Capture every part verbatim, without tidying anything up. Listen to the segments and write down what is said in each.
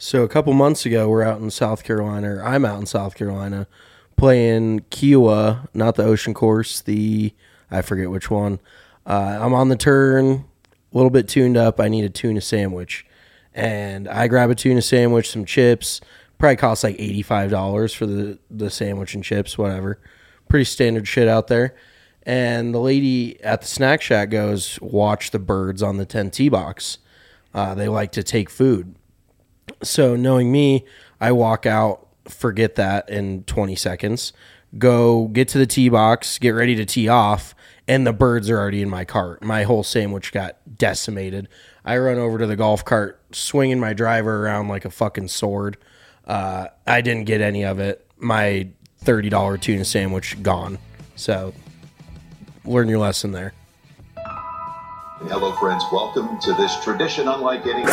So a couple months ago, we're out in South Carolina, or I'm out in South Carolina, playing Kiowa, not the ocean course, the, I forget which one. Uh, I'm on the turn, a little bit tuned up. I need a tuna sandwich. And I grab a tuna sandwich, some chips. Probably costs like eighty-five dollars for the, the sandwich and chips, whatever. Pretty standard shit out there. And the lady at the snack shack goes, watch the birds on the ten tee box. Uh, they like to take food. So knowing me, I walk out, forget that in twenty seconds, go get to the tee box, get ready to tee off, and the birds are already in my cart. My whole sandwich got decimated. I run over to the golf cart, swinging my driver around like a fucking sword. Uh, I didn't get any of it. My thirty dollars tuna sandwich gone. So learn your lesson there. Hello, friends. Welcome to this tradition unlike any...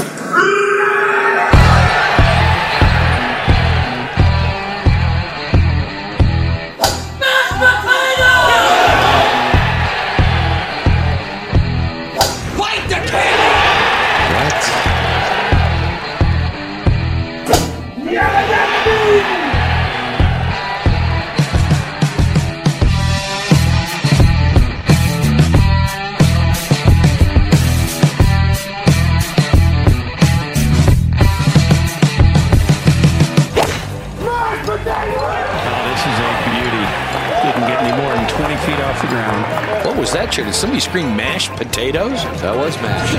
What was that, Chair? Did somebody scream mashed potatoes? That was mashed.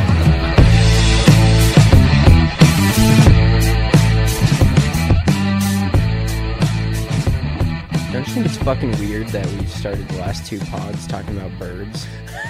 Don't you think it's fucking weird that we started the last two pods talking about birds?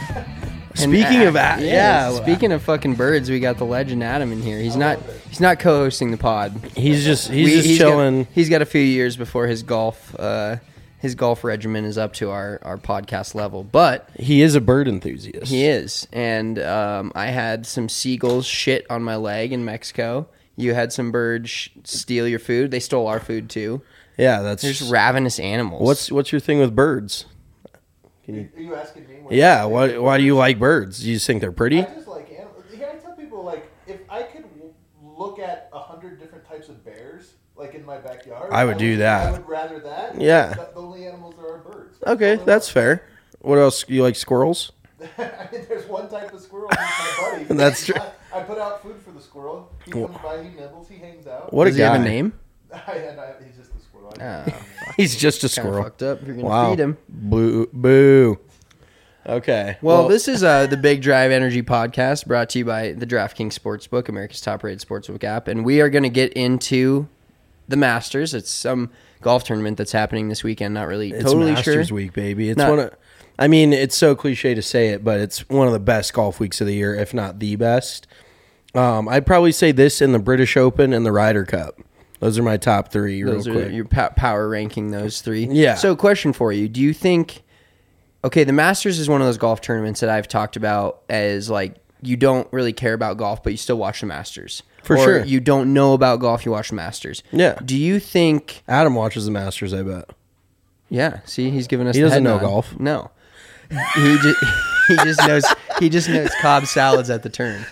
Speaking and, of that, uh, yeah. yeah. Speaking of fucking birds, we got the legend Adam in here. He's not. He's not co-hosting the pod. He's just. He's We- just he's chilling. Got, he's got a few years before his golf. Uh, his golf regimen is up to our, our podcast level, but He is a bird enthusiast. he is. And um, I had some seagulls shit on my leg in Mexico. You had some birds sh- steal your food. They stole our food too. Yeah, that's. They're just ravenous animals. What's What's your thing with birds? Are you asking me? What Yeah, why Why do you like birds? Do you just think they're pretty? I just like animals. Here, I tell people, like, if I could w- look at a hundred different types of bears, like in my backyard, I would do that. I would rather that. Yeah. The, the only animals that are birds. Okay, All that's the- fair. What else? You like squirrels? I mean, there's one type of squirrel. He's my buddy. That's true. I, I put out food for the squirrel. He comes by, he nibbles, he hangs out. What Does a he guy. have a name? I, and I, he's just a squirrel. I- Ah, He's just a kind of squirrel. fucked up. If you're gonna Wow. feed him. Boo. Boo. Okay. Well, this is uh, the Big Drive Energy Podcast, brought to you by the DraftKings Sportsbook, America's top-rated sportsbook app, and we are going to get into the Masters. It's some golf tournament that's happening this weekend. Not really It's totally Masters sure. week, baby. It's Not- one of. I mean, it's so cliche to say it, but it's one of the best golf weeks of the year, if not the best. Um, I'd probably say this in the British Open and the Ryder Cup. Those are my top three. Those real are quick. your pa- power ranking those three. Yeah. So, question for you: do you think? Okay, the Masters is one of those golf tournaments that I've talked about as like you don't really care about golf, but you still watch the Masters. For or sure. you don't know about golf, you watch the Masters. Yeah. Do you think? Adam watches the Masters, I bet. Yeah. See, he's giving us. He the doesn't head know nod. golf. No. He just he just knows he just knows Cobb salads at the turn.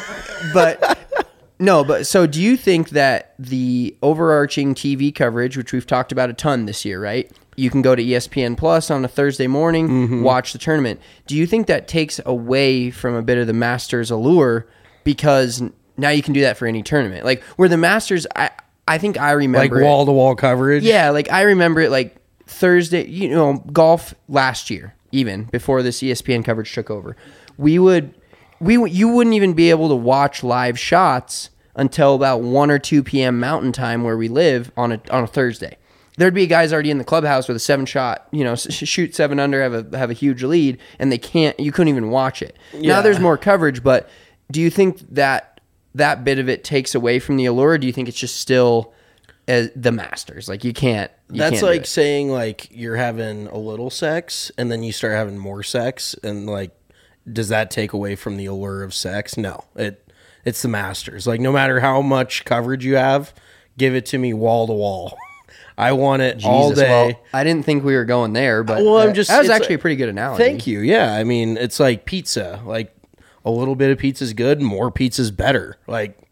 But no, but so do you think that the overarching T V coverage, which we've talked about a ton this year, right? You can go to E S P N Plus on a Thursday morning, Mm-hmm. watch the tournament. Do you think that takes away from a bit of the Masters allure because now you can do that for any tournament? Like where the Masters, I I think I Like remember it- wall to wall coverage. yeah, like I remember it like Thursday, you know, golf last year, even before this E S P N coverage took over. We would we would- you wouldn't even be able to watch live shots until about one or two p.m. Mountain Time where we live on a on a Thursday. There'd be guys already in the clubhouse with a seven shot, you know, s- shoot seven under, have a have a huge lead, and they can't. You couldn't even watch it. Yeah. Now there's more coverage, but do you think that that bit of it takes away from the allure? Or do you think it's just still as the Masters? Like you can't. You That's can't do like it. saying like you're having a little sex and then you start having more sex, and like does that take away from the allure of sex? No. It it's the Masters. Like no matter how much coverage you have, give it to me wall to wall. I want it all Jesus, day. well, I didn't think we were going there, but Well, I'm uh, just that was it's actually like- a pretty good analogy. Thank you. Yeah, I mean, it's like pizza. Like a little bit of pizza is good, more pizza is better. Like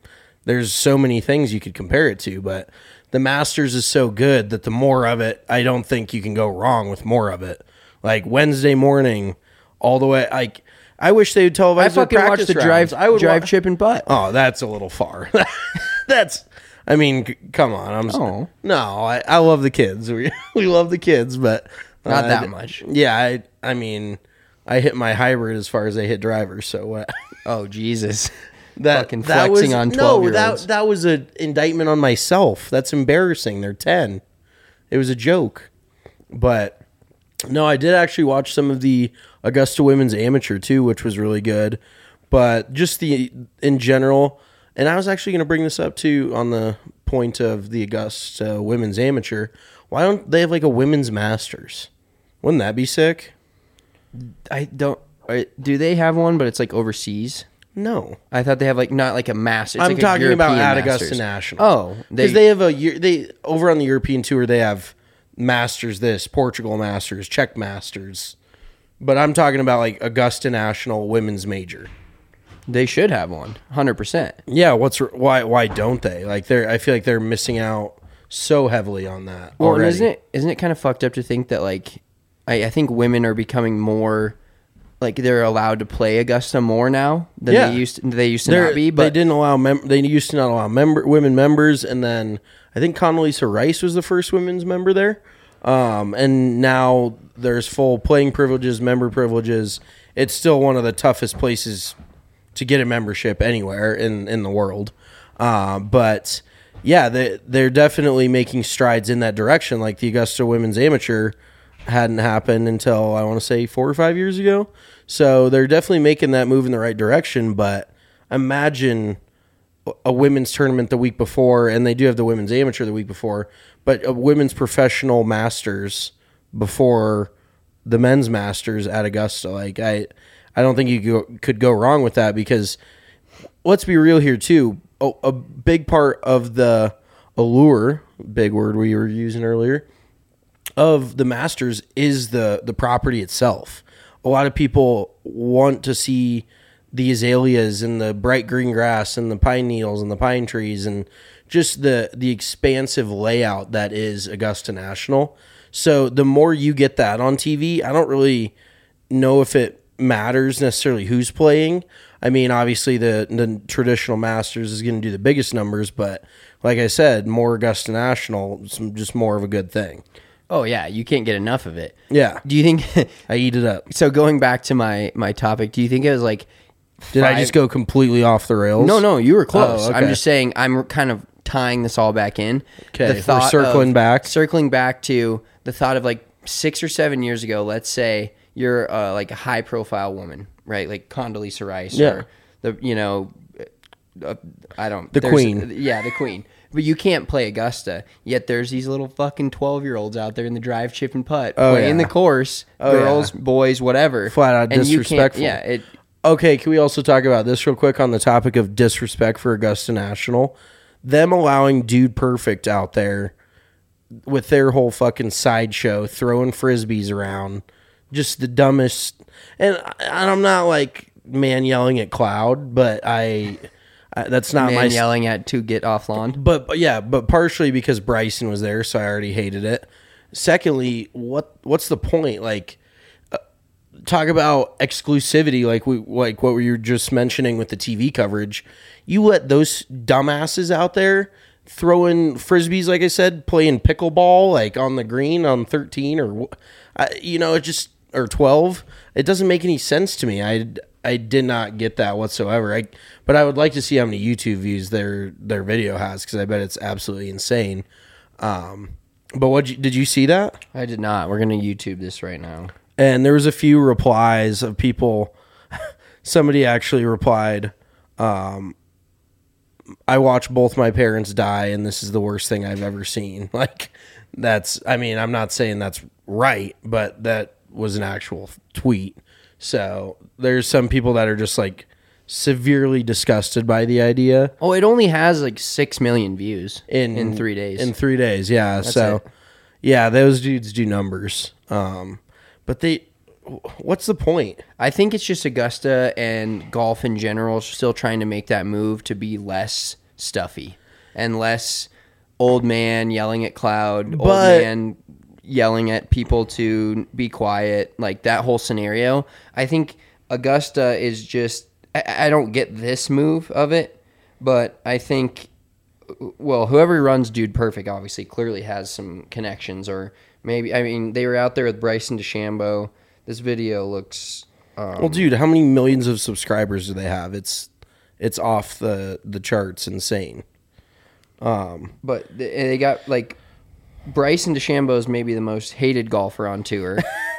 there's so many things you could compare it to, but the Masters is so good that the more of it, I don't think you can go wrong with more of it. Like Wednesday morning, all the way. Like I wish they would televise. I their fucking watched practice the rounds. drive, I would drive, wa- chip, and putt. Oh, that's a little far. That's. I mean, c- come on. I'm. s- Oh. No, I, I love the kids. We we love the kids, but Not uh, that much. Yeah, I. I mean, I hit my hybrid as far as I hit drivers. So what? Oh, Jesus. that Fucking that flexing was, on no, twelve-year-olds. that that was an indictment on myself. That's embarrassing. They're ten. It was a joke, but no, I did actually watch some of the Augusta Women's Amateur too, which was really good. But just the in general, and I was actually going to bring this up too on the point of the Augusta Women's Amateur. Why don't they have like a Women's Masters? Wouldn't that be sick? I don't. uh, Do they have one, but it's like overseas? No. I thought they have like not like a master. It's I'm like a talking about European at Augusta Masters. National. Oh, because they, have a year. They over on the European tour. They have Masters. This Portugal Masters, Czech Masters. But I'm talking about like Augusta National Women's Major. they should have one, one hundred percent. Yeah. What's why? Why don't they? Like they're. I feel like they're missing out so heavily on that. Well, and already. isn't it isn't it kind of fucked up to think that like I, I think women are becoming more like they're allowed to play Augusta more now than Yeah. they used to, they used to They're- not be. they But didn't allow. Mem- they used to not allow member women members, and then I think Condoleezza Rice was the first women's member there. Um, and now there's full playing privileges, member privileges. It's still one of the toughest places to get a membership anywhere in, in the world. Uh, but yeah, they, they're definitely making strides in that direction. Like the Augusta Women's Amateur hadn't happened until I want to say four or five years ago. So they're definitely making that move in the right direction. But imagine a women's tournament the week before, and they do have the women's amateur the week before, but a women's professional masters before the men's masters at Augusta. Like I, I don't think you go, could go wrong with that because let's be real here too. A, a big part of the allure, big word we were using earlier, of the Masters is the the property itself. A lot of people want to see the azaleas and the bright green grass and the pine needles and the pine trees and just the the expansive layout that is Augusta National. So the more you get that on T V, I don't really know if it matters necessarily who's playing. I mean, obviously the the traditional Masters is going to do the biggest numbers, but like I said, more Augusta National is just more of a good thing. oh yeah, you can't get enough of it. Yeah. Do you think? I eat it up. So going back to my my topic, do you think it was like? Did I five- just go completely off the rails? No, no, you were close. Oh, okay. I'm just saying I'm kind of tying this all back in. Okay, we're circling of- back. Circling back to the thought of like six or seven years ago, let's say you're uh, like a high profile woman, right? Like Condoleezza Rice Yeah. or the, you know, uh, I don't. The there's- queen. Yeah, the queen. But you can't play Augusta. Yet there's these little fucking twelve-year-olds out there in the drive, chip, and putt Oh, playing yeah. the course, Oh, girls, yeah. boys, whatever. Flat out And you can't- disrespectful. Yeah, it, Okay, can we also talk about this real quick on the topic of disrespect for Augusta National? Them allowing Dude Perfect out there with their whole fucking sideshow, throwing frisbees around, just the dumbest. And, and I'm not like man yelling at cloud, but I, I that's not man my yelling at to get off lawn. But, but yeah, but partially because Bryson was there, so I already hated it. Secondly, what what's the point? Like, uh, talk about exclusivity, like we like what we were just mentioning with the T V coverage. You let those dumbasses out there throwing frisbees, like I said, playing pickleball, like on the green on thirteen or uh, you know, it just or twelve. It doesn't make any sense to me. I. I did not get that whatsoever. I, but I would like to see how many YouTube views their their video has because I bet it's absolutely insane. Um, but what did you see that? I did not. We're gonna YouTube this right now. And there was a few replies of people. Somebody actually replied, um, "I watched both my parents die, and this is the worst thing I've ever seen." Like that's. I mean, I'm not saying that's right, but that was an actual tweet. So there's some people that are just like severely disgusted by the idea Oh, it only has like six million views in in three days. In three days, yeah. so it. yeah, those dudes do numbers. Um, but they, what's the point? I think it's just Augusta and golf in general still trying to make that move to be less stuffy and less old man yelling at cloud, old But- man yelling at people to be quiet, like that whole scenario. I think Augusta is just, I, I don't get this move of it, but I think, well, whoever runs Dude Perfect obviously clearly has some connections, or maybe, I mean, they were out there with Bryson DeChambeau. This video looks... Um, Well, dude, how many millions of subscribers do they have? It's it's off the, the charts, insane. But th- they got, like, Bryson DeChambeau is maybe the most hated golfer on tour.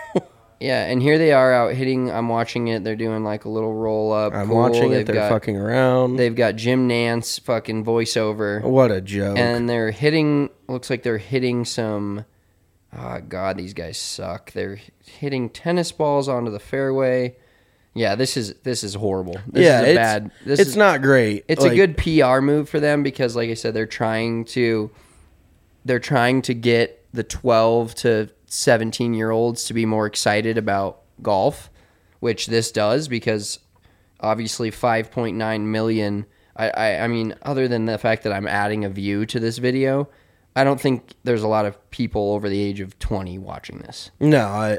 Yeah, and here they are out hitting. I'm watching it. They're doing, like, a little roll-up. I'm Cool. watching it. They've They're got, fucking around. They've got Jim Nance fucking voiceover. What a joke. And they're hitting, looks like they're hitting some, oh, God, these guys suck. They're hitting tennis balls onto the fairway. Yeah, this is this is horrible. This yeah, is a it's, bad. This it's is, not great. It's Like, a good P R move for them because, like I said, they're trying to they're trying to get the twelve to seventeen year olds to be more excited about golf, which this does because obviously five point nine million. I, I I mean, other than the fact that I'm adding a view to this video, I don't think there's a lot of people over the age of twenty watching this. No, I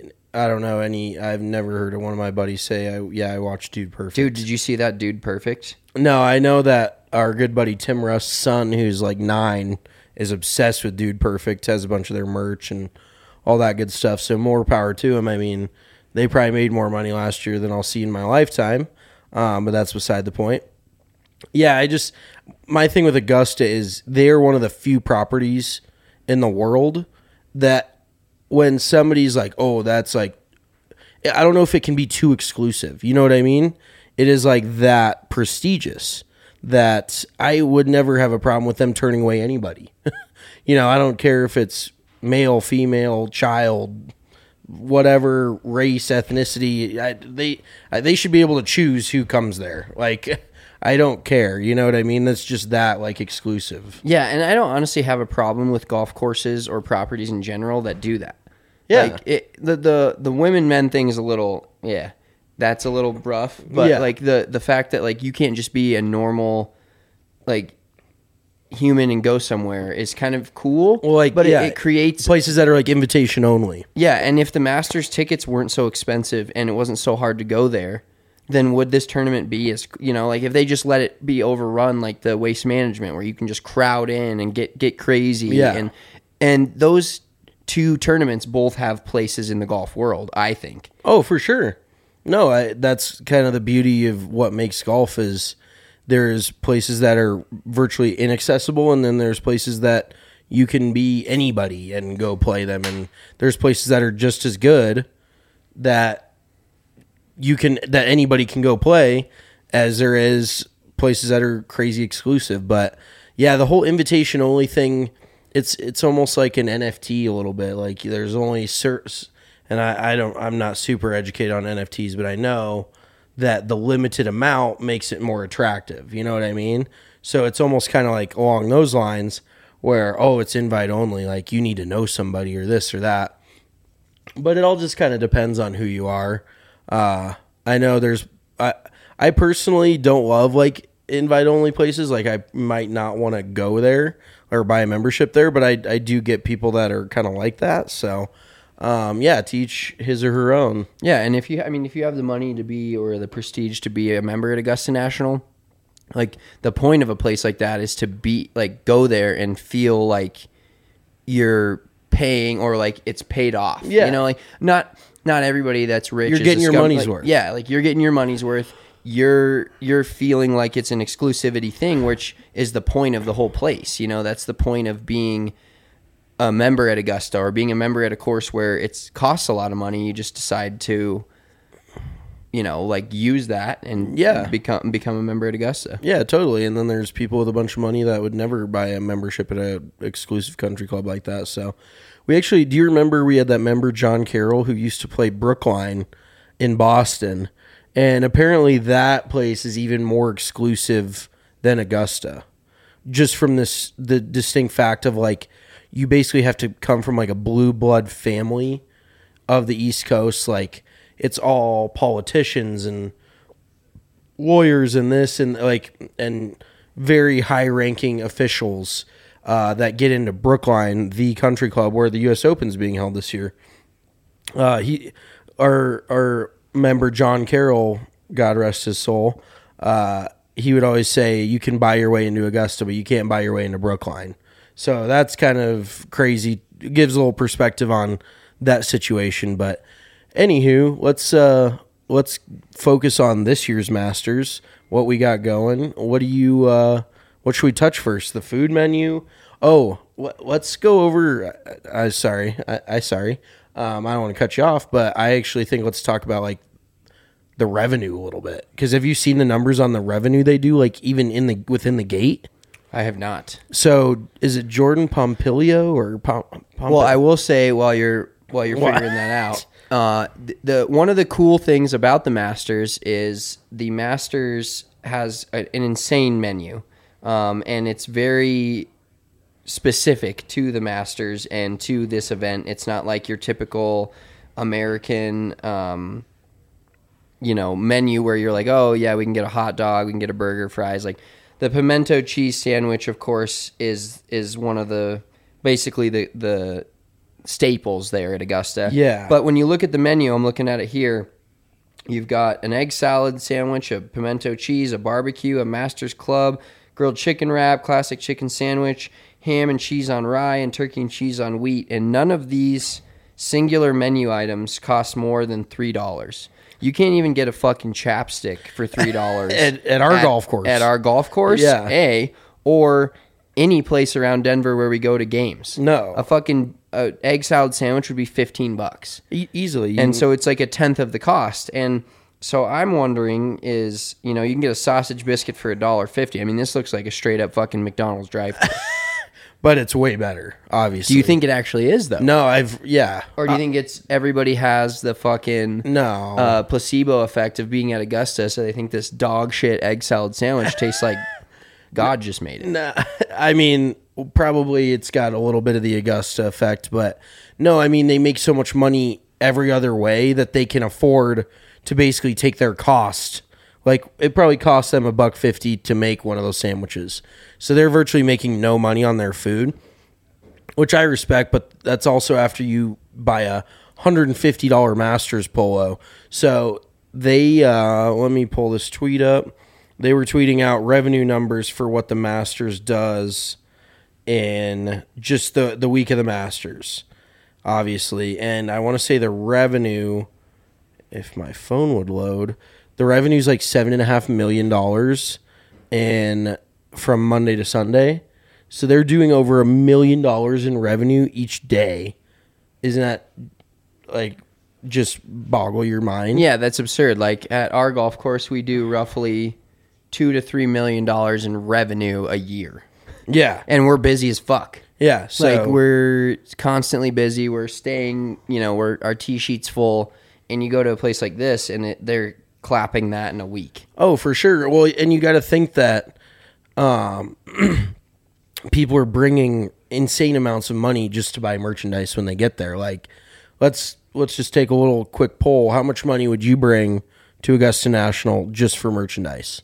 I don't know any. I've never heard of one of my buddies say, I, yeah, I watched Dude Perfect. Dude, did you see that Dude Perfect? No, I know that our good buddy Tim Russ's son, who's like nine, is obsessed with Dude Perfect, has a bunch of their merch and all that good stuff. So more power to him. I mean, they probably made more money last year than I'll see in my lifetime, um, but that's beside the point. Yeah, I just, my thing with Augusta is they're one of the few properties in the world that when somebody's like, oh, that's like, I don't know if it can be too exclusive. You know what I mean? It is like that prestigious that I would never have a problem with them turning away anybody. You know, I don't care if it's male, female, child, whatever race, ethnicity. I, they I, they should be able to choose who comes there. Like, I don't care. You know what I mean? That's just that, like, exclusive. Yeah, and I don't honestly have a problem with golf courses or properties in general that do that. Yeah. Like it, the the the women men thing is a little yeah, that's a little rough. But Yeah. like the the fact that like you can't just be a normal like human and go somewhere is kind of cool. Well, like, but yeah, it, it creates places that are like invitation only. yeah. And if the Masters tickets weren't so expensive and it wasn't so hard to go there, then would this tournament be as you know like if they just let it be overrun like the Waste Management where you can just crowd in and get get crazy Yeah. and and those two tournaments both have places in the golf world, I think. Oh, for sure. No, I, that's kind of the beauty of what makes golf is there's places that are virtually inaccessible, and then there's places that you can be anybody and go play them, and there's places that are just as good that you can that anybody can go play as there is places that are crazy exclusive. But yeah, the whole invitation only thing, it's it's almost like an N F T a little bit. Like there's only certain, and I, I don't I'm not super educated on N F Ts, but I know that the limited amount makes it more attractive. You know what I mean? So it's almost kind of like along those lines where, oh, it's invite only, like you need to know somebody or this or that. But it all just kind of depends on who you are. Uh, I know there's, I, I personally don't love like invite only places. Like I might not want to go there or buy a membership there, but I, I do get people that are kind of like that. So, um, yeah, teach his or her own. Yeah, and if you, I mean, if you have the money to be or the prestige to be a member at Augusta National, like the point of a place like that is to be like go there and feel like you're paying or like it's paid off. Yeah. You know, like not not everybody that's rich. You're is getting a your scum- money's like, worth. Yeah, like you're getting your money's worth. You're you're feeling like it's an exclusivity thing, which is the point of the whole place. You know, that's the point of being a member at Augusta or being a member at a course where it costs a lot of money. You just decide to, you know, like use that and Yeah. become become a member at Augusta. Yeah, totally. And then there's people with a bunch of money that would never buy a membership at a exclusive country club like that. So we actually, do you remember we had that member, John Carroll, who used to play Brookline in Boston? And apparently that place is even more exclusive than Augusta. Just from this, the distinct fact of like, you basically have to come from like a blue blood family of the East Coast. Like it's all politicians and lawyers and this and like, and very high-ranking officials uh, that get into Brookline, the country club where the U S Open is being held this year. Uh, he, our our member John Carroll, God rest his soul, uh, he would always say, "You can buy your way into Augusta, but you can't buy your way into Brookline." So that's kind of crazy. It gives a little perspective on that situation. But anywho, let's uh, let's focus on this year's Masters. What we got going? What do you? Uh, what should we touch first? The food menu. Oh, let's go over. I uh, sorry, I, I sorry. Um, I don't want to cut you off, but I actually think let's talk about like the revenue a little bit, because have you seen the numbers on the revenue they do, like even in the within the gate? I have not. So is it Jordan Pompilio or Pom? Pomp- Well, I will say while you're while you're What? figuring that out, uh, the, the one of the cool things about the Masters is the Masters has a, an insane menu, um, and it's very specific to the Masters and to this event. It's not like your typical American, um, you know, menu where you're like, oh yeah, we can get a hot dog, we can get a burger, fries. Like the pimento cheese sandwich, of course, is is one of the basically the the staples there at Augusta. Yeah. But when you look at the menu, I'm looking at it here. You've got an egg salad sandwich, a pimento cheese, a barbecue, a Masters Club, grilled chicken wrap, classic chicken sandwich, ham and cheese on rye, and turkey and cheese on wheat. And none of these singular menu items cost more than three dollars. You can't even get a fucking chapstick for three dollars at, at our golf course. At our golf course, Yeah. A, or any place around Denver where we go to games. No. A fucking uh, egg salad sandwich would be fifteen bucks. E- easily. And so it's like a tenth of the cost. And so I'm wondering is, you know, you can get a sausage biscuit for a dollar fifty. I mean, this looks like a straight up fucking McDonald's drive-thru. but it's way better, obviously. Do you think it actually is though? No, I've yeah. Or do you think it's everybody has the fucking No. uh, placebo effect of being at Augusta, so they think this dog shit egg salad sandwich tastes like God just made it? Nah, I mean, probably it's got a little bit of the Augusta effect, but no, I mean, they make so much money every other way that they can afford to basically take their cost. Like, it probably costs them a buck fifty to make one of those sandwiches. So they're virtually making no money on their food, which I respect, but that's also after you buy a one hundred fifty dollars Masters polo. So they, uh, let me pull this tweet up. They were tweeting out revenue numbers for what the Masters does in just the, the week of the Masters, obviously. And I want to say the revenue, if my phone would load, the revenue is like seven and a half million dollars, and from Monday to Sunday. So they're doing over a million dollars in revenue each day. Isn't that like just boggle your mind? Yeah, that's absurd. Like at our golf course, we do roughly two to three million dollars in revenue a year, Yeah. and we're busy as fuck. Yeah. So Like we're constantly busy. We're staying, you know, we're our tee sheet's full, and you go to a place like this, and it, they're clapping that in a week. Oh, for sure. Well, and you got to think that um, people are bringing insane amounts of money just to buy merchandise when they get there. Like, let's let's just take a little quick poll. How much money would you bring to Augusta National just for merchandise?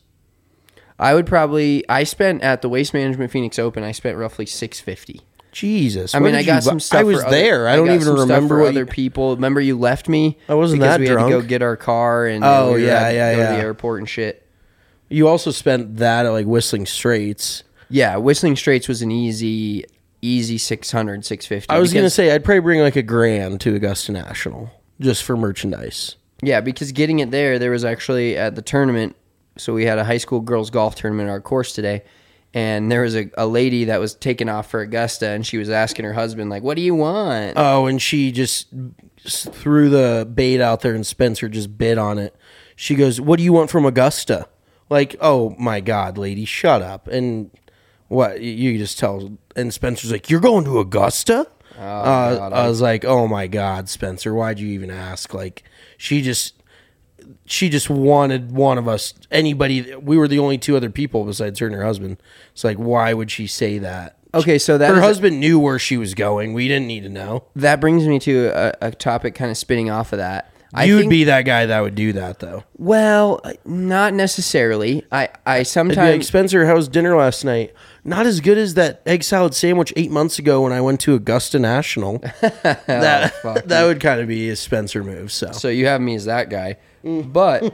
I would probably. I spent at the Waste Management Phoenix Open. I spent roughly six fifty. Jesus. I what mean, did I you got bu- some stuff. I was for other- there. I don't got even some stuff remember for what other you- people. Remember, you left me. I wasn't because that we had drunk. to go get our car and Oh, we yeah, had to yeah, go to yeah. the airport and shit. You also spent that at like Whistling Straits. Yeah, Whistling Straits was an easy, easy six hundred, six fifty. I was going to because- say I'd probably bring like a grand to Augusta National just for merchandise. Yeah, because getting it there, there was actually at the tournament. So we had a high school girls golf tournament at our course today, and there was a, a lady that was taking off for Augusta, and she was asking her husband, like, "What do you want?" Oh, and she just s- threw the bait out there, and Spencer just bid on it. She goes, "What do you want from Augusta?" Like, oh my God, lady, shut up. And what you just tell, and Spencer's like, "You're going to Augusta?" Oh, uh, God, I I- was like, "Oh my God, Spencer, why'd you even ask?" Like, she just. She just wanted one of us, anybody. We were the only two other people besides her and her husband. It's like, why would she say that? Okay, so that Her is- husband knew where she was going. We didn't need to know. that brings me to a, a topic kind of spinning off of that. I You'd think, be that guy that would do that, though. well, not necessarily. I I It'd be sometimes like, Spencer, how was dinner last night? Not as good as that egg salad sandwich eight months ago when I went to Augusta National. that fuck that would kind of be a Spencer move. So, So you have me as that guy. But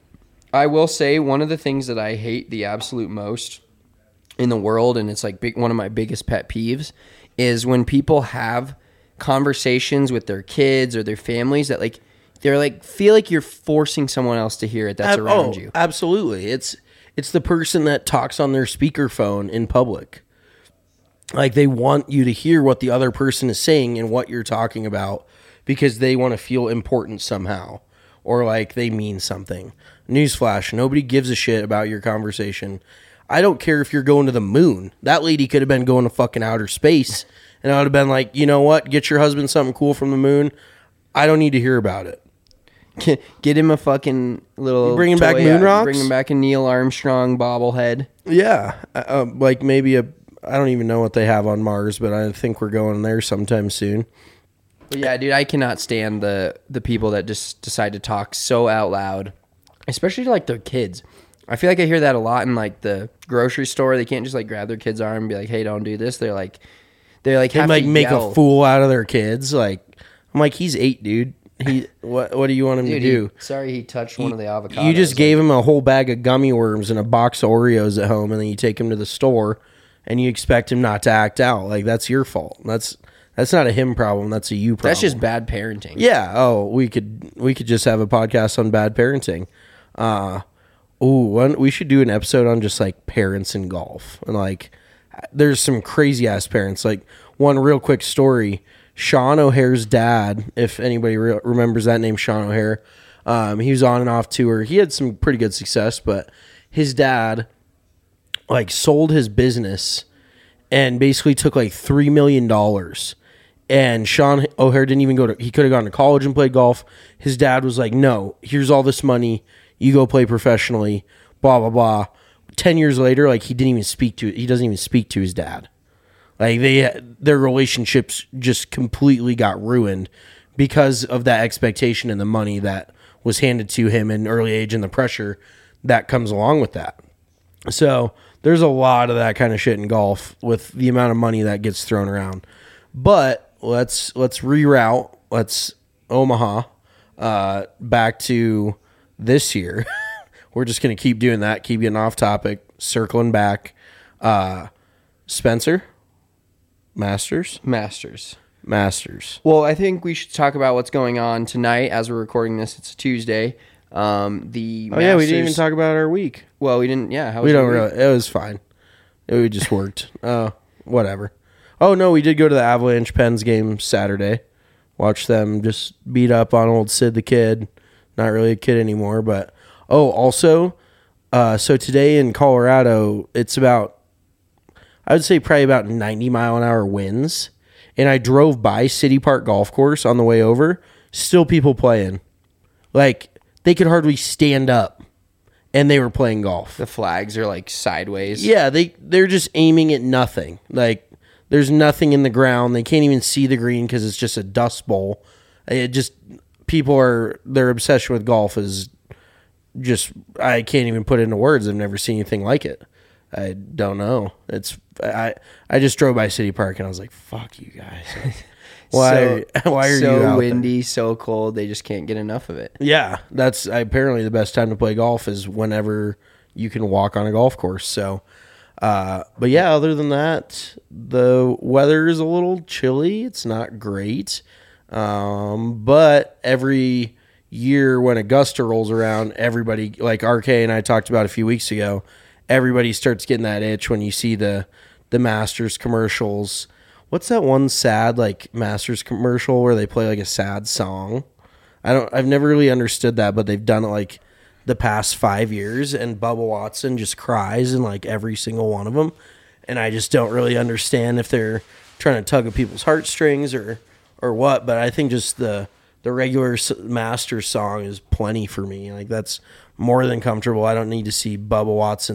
I will say one of the things that I hate the absolute most in the world, and it's like big, one of my biggest pet peeves, is when people have conversations with their kids or their families that like they're like feel like you're forcing someone else to hear it that's Ab- around oh, you. absolutely. It's it's the person that talks on their speakerphone in public. Like they want you to hear what the other person is saying and what you're talking about because they want to feel important somehow or like they mean something. Newsflash, nobody gives a shit about your conversation. I don't care if you're going to the moon. That lady could have been going to fucking outer space and I would have been like, you know what? Get your husband something cool from the moon. I don't need to hear about it. Get, get him a fucking little You bringing back toy, moon uh, rocks? Bring him back a Neil Armstrong bobblehead. Yeah, uh, uh, like maybe a. I don't even know what they have on Mars, but I think we're going there sometime soon. But yeah, dude, I cannot stand the the people that just decide to talk so out loud, especially to like their kids. I feel like I hear that a lot in like the grocery store. They can't just like grab their kid's arm and be like, "Hey, don't do this." They're like, they're like, They have like to make yell. a fool out of their kids. Like I'm like, he's eight, dude. He what? What do you want him Dude, to do? he- sorry, he touched one of the avocados. You just gave him a whole bag of gummy worms and a box of Oreos at home, and then you take him to the store, and you expect him not to act out. Like that's your fault. That's that's not a him problem. That's a you problem. That's just bad parenting. Yeah. Oh, we could we could just have a podcast on bad parenting. Uh ooh, one we should do an episode on just like parents in golf. And like there's some crazy ass parents. Like one real quick story, Sean O'Hare's dad, if anybody re- remembers that name, Sean O'Hare, um, he was on and off tour. He had some pretty good success, but his dad like sold his business and basically took like three million dollars. And Sean O'Hare didn't even go to, he could have gone to college and played golf. His dad was like, no, here's all this money. You go play professionally, blah, blah, blah. Ten years later, like he didn't even speak to, he doesn't even speak to his dad. Like they, their relationships just completely got ruined because of that expectation and the money that was handed to him in early age and the pressure that comes along with that. So there's a lot of that kind of shit in golf with the amount of money that gets thrown around. But let's let's reroute. Let's Omaha uh, back to this year. We're just gonna keep doing that. Keep getting off topic. Circling back. Uh, Spencer, Masters, Masters. Masters. Well, I think we should talk about what's going on tonight as we're recording this. It's a Tuesday. Um, the Oh yeah, we didn't even Masters- talk about our week. Well, we didn't. Yeah, how was We don't your week? really. It was fine. It just worked. Uh, whatever. Oh no, we did go to the Avalanche Pens game Saturday. Watch them just beat up on old Sid the Kid. Not really a kid anymore, but oh, also, uh, so today in Colorado, it's about, I would say probably about ninety mile an hour winds, and I drove by City Park Golf Course on the way over. Still people playing, like they could hardly stand up, and they were playing golf. The flags are like sideways. Yeah, they they're just aiming at nothing. Like there's nothing in the ground. They can't even see the green because it's just a dust bowl. It just people are their obsession with golf is just I can't even put it into words. I've never seen anything like it. I don't know. It's I I just drove by City Park and I was like, "Fuck you guys." Why So- why are so you out there? windy, so cold? They just can't get enough of it. Yeah, that's apparently the best time to play golf is whenever you can walk on a golf course. So, uh, but yeah, other than that, the weather is a little chilly. It's not great. Um, but every year when Augusta rolls around, everybody, like R K and I talked about a few weeks ago, everybody starts getting that itch when you see the, the Masters commercials. What's that one sad like Masters commercial where they play like a sad song? I don't. I've never really understood that, but they've done it like the past five years, and Bubba Watson just cries in like every single one of them, and I just don't really understand if they're trying to tug at people's heartstrings or or what. But I think just the the regular s- Masters song is plenty for me. Like that's more than comfortable. I don't need to see Bubba Watson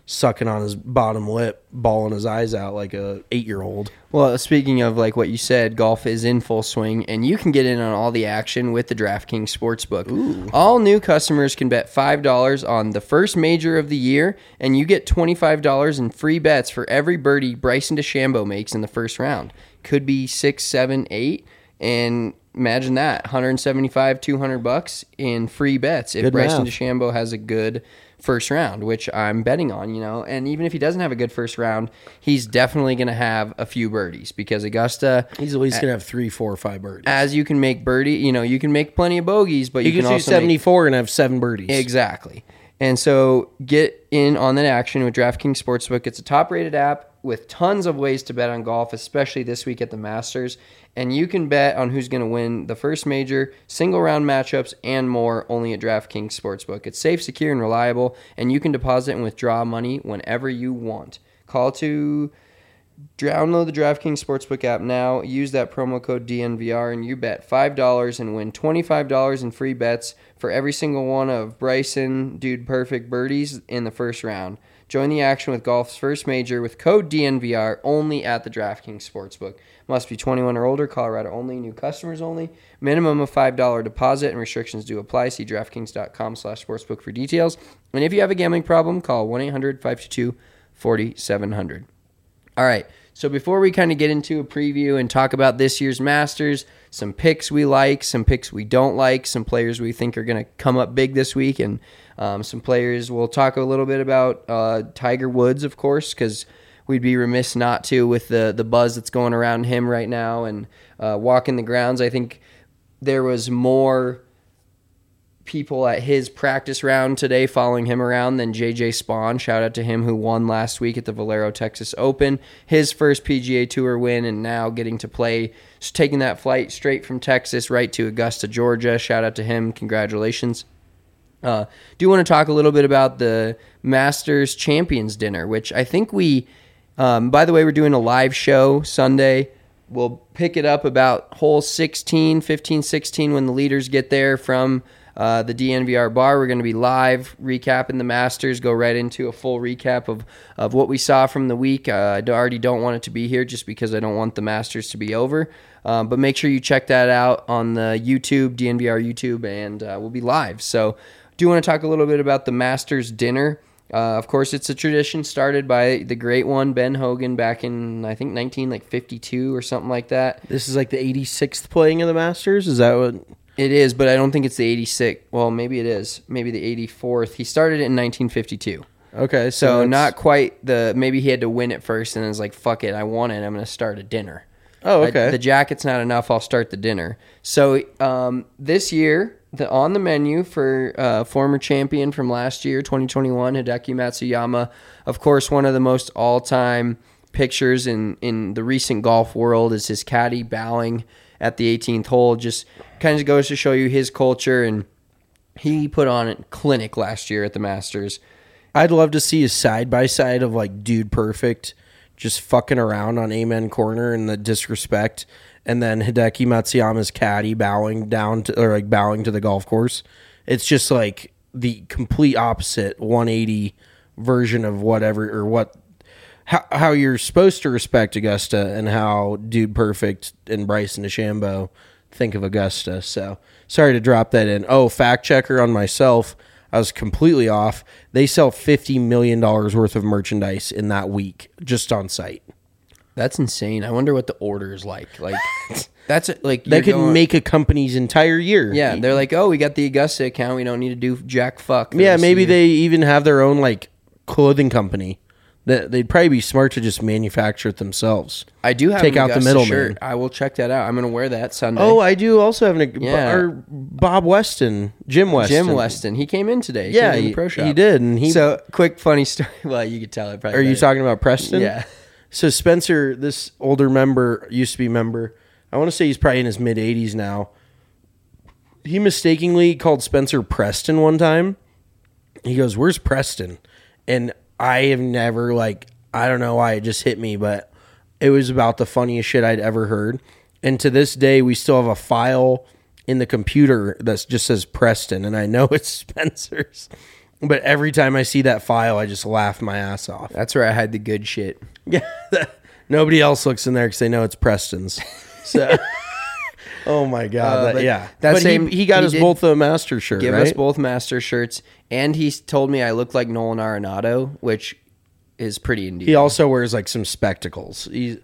sucking on his bottom lip, bawling his eyes out like a eight-year-old. Well, speaking of like what you said, golf is in full swing, and you can get in on all the action with the DraftKings Sportsbook. Ooh. All new customers can bet five dollars on the first major of the year, and you get twenty-five dollars in free bets for every birdie Bryson DeChambeau makes in the first round. Could be six, seven, eight, and imagine that, one hundred seventy-five, two hundred bucks in free bets if Good Bryson math. DeChambeau has a good first round, which I'm betting on, you know. And even if he doesn't have a good first round, he's definitely going to have a few birdies because Augusta, He's at least going to have three, four, or five birdies. as you can make birdie, you know, you can make plenty of bogeys, but you, you, can can do also make, seventy-four and have seven birdies. exactly. And so get in on that action with DraftKings Sportsbook. It's a top-rated app with tons of ways to bet on golf, especially this week at the Masters. And you can bet on who's going to win the first major, single-round matchups, and more only at DraftKings Sportsbook. It's safe, secure, and reliable, and you can deposit and withdraw money whenever you want. Call to download the DraftKings Sportsbook app now. Use that promo code D N V R, and you bet five dollars and win twenty-five dollars in free bets for every single one of Bryson Dude Perfect birdies in the first round. Join the action with golf's first major with code D N V R only at the DraftKings Sportsbook. Must be twenty-one or older, Colorado only, new customers only. Minimum of five dollars deposit and restrictions do apply. See DraftKings.com slash sportsbook for details. And if you have a gambling problem, call one eight hundred five two two four seven zero zero. All right, so before we kind of get into a preview and talk about this year's Masters, some picks we like, some picks we don't like, some players we think are going to come up big this week, and um, some players we'll talk a little bit about uh, Tiger Woods, of course, because we'd be remiss not to with the, the buzz that's going around him right now, and uh, walking the grounds. I think there was more people at his practice round today following him around than J J Spawn. Shout out to him who won last week at the Valero Texas Open, his first P G A Tour win, and now getting to play, just taking that flight straight from Texas right to Augusta, Georgia. Shout out to him. Congratulations. Uh, do want to talk a little bit about the Masters Champions Dinner, which I think we, um, by the way, we're doing a live show Sunday. We'll pick it up about hole sixteen, fifteen, sixteen when the leaders get there from Uh, the D N V R bar. We're going to be live recapping the Masters, go right into a full recap of, of what we saw from the week. Uh, I already don't want it to be here just because I don't want the Masters to be over. Um, but make sure you check that out on the YouTube, D N V R YouTube, and uh, we'll be live. So do want to talk a little bit about the Masters dinner. Uh, of course, it's a tradition started by the great one, Ben Hogan, back in, I think, nineteen fifty-two or something like that. This is like the eighty-sixth playing of the Masters? Is that what... It is, but I don't think it's the eighty-sixth. Well, maybe it is. Maybe the eighty-fourth. He started it in nineteen fifty-two. Okay, so, So that's- not quite the... Maybe he had to win it first, and then was like, fuck it, I won it. I'm going to start a dinner. Oh, I- okay. the jacket's not enough. I'll start the dinner. So um, this year, the on the menu for uh, former champion from last year, twenty twenty-one, Hideki Matsuyama. Of course, one of the most all-time pictures in, in the recent golf world is his caddy bowing at the eighteenth hole. Just kind of goes to show you his culture, and he put on a clinic last year at the Masters. I'd love to see a side-by-side of, like, Dude Perfect just fucking around on Amen Corner and the disrespect, and then Hideki Matsuyama's caddy bowing down to, or, like, bowing to the golf course. It's just, like, the complete opposite one eighty version of whatever, or what... How, how you're supposed to respect Augusta and how Dude Perfect and Bryson DeChambeau think of Augusta. So sorry to drop that in. Oh, fact checker on myself. I was completely off. They sell fifty million dollars worth of merchandise in that week just on site. That's insane. I wonder what the order is like. Like that's like They you're could going- make a company's entire year. Yeah, they're like, oh, we got the Augusta account. We don't need to do jack fuck. for Yeah, this maybe year." they even have their own, like, clothing company. That they'd probably be smart to just manufacture it themselves. I do have take an out the Augusta middleman. shirt. I will check that out. I'm gonna wear that Sunday. Oh, I do also have an Yeah. or Bob Weston, Jim Weston. Jim Weston. He came in today. He Yeah, came in the he, pro shop. he did. And he. So quick funny story. Well, you could tell it. Probably are you better. talking about Preston? Yeah. So Spencer, this older member, used to be member. I want to say he's probably in his mid eighties now. He mistakenly called Spencer Preston one time. He goes, "Where's Preston?" And I have never, like, I don't know why it just hit me, but it was about the funniest shit I'd ever heard. And to this day, we still have a file in the computer that just says Preston, and I know it's Spencer's. But every time I see that file, I just laugh my ass off. That's where I hide the good shit. Yeah, nobody else looks in there because they know it's Preston's. So, oh my god, Uh, that- but yeah. that but same- he, he got he us did both a master shirt, Give right? us both master shirts, and he told me I look like Nolan Arenado, which is pretty endearing. He also wears like some spectacles. He,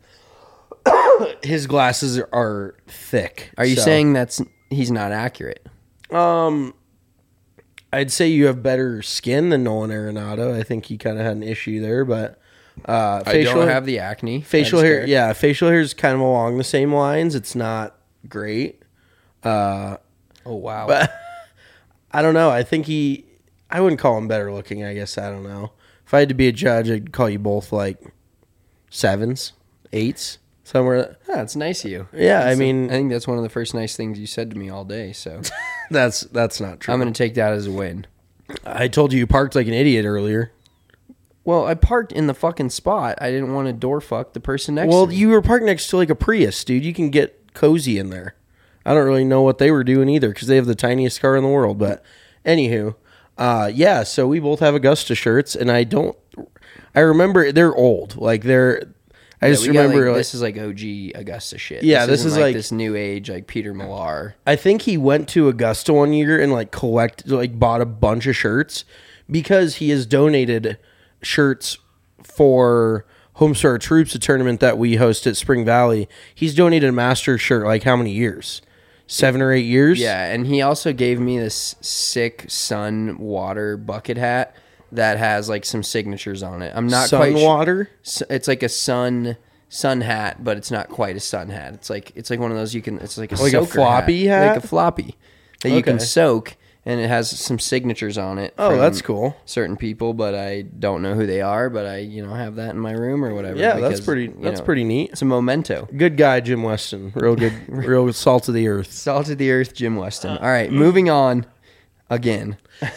his glasses are, are thick. Are you so- saying that's he's not accurate? Um, I'd say you have better skin than Nolan Arenado. I think he kind of had an issue there, but uh, I facial don't have the acne. facial I just hair. care. Yeah, facial hair is kind of along the same lines. It's not great. Uh, Oh wow. but I don't know. I think he. I wouldn't call him better looking. I guess I don't know. If I had to be a judge, I'd call you both like sevens, eights, somewhere. Yeah, it's nice of you. Yeah, I That's the- mean- I think that's one of the first nice things you said to me all day. So That's that's not true. I'm going to take that as a win. I told you you parked like an idiot earlier. Well, I parked in the fucking spot. I didn't want to door fuck the person next Well, to me. you were parked next to like a Prius, dude. You can get cozy in there. I don't really know what they were doing either because they have the tiniest car in the world. But anywho, uh, yeah. So we both have Augusta shirts, and I don't. I remember they're old. Like they're. I Yeah, just we got, remember. like, like, this is like O G Augusta shit. Yeah, this isn't is like- this new age like Peter Millar. I think he went to Augusta one year and like collect like bought a bunch of shirts because he has donated shirts for Homestar Troops, a tournament that we host at Spring Valley. He's donated a master shirt like how many years? Seven or eight years? Yeah, and he also gave me this sick sun water bucket hat that has like some signatures on it. I'm not Sun quite su- water? S- It's like a sun sun hat, but it's not quite a sun hat. It's like it's like one of those you can. It's like a Like a soaker floppy hat? like a floppy that you can Okay. soak, and it has some signatures on it. Oh, from that's cool. Certain people, but I don't know who they are. But I, you know, have that in my room or whatever. Yeah, that's because, pretty you that's know, pretty neat. It's a memento. Good guy, Jim Weston. Real good real salt of the earth. Salt of the earth, Jim Weston. All right, moving on again.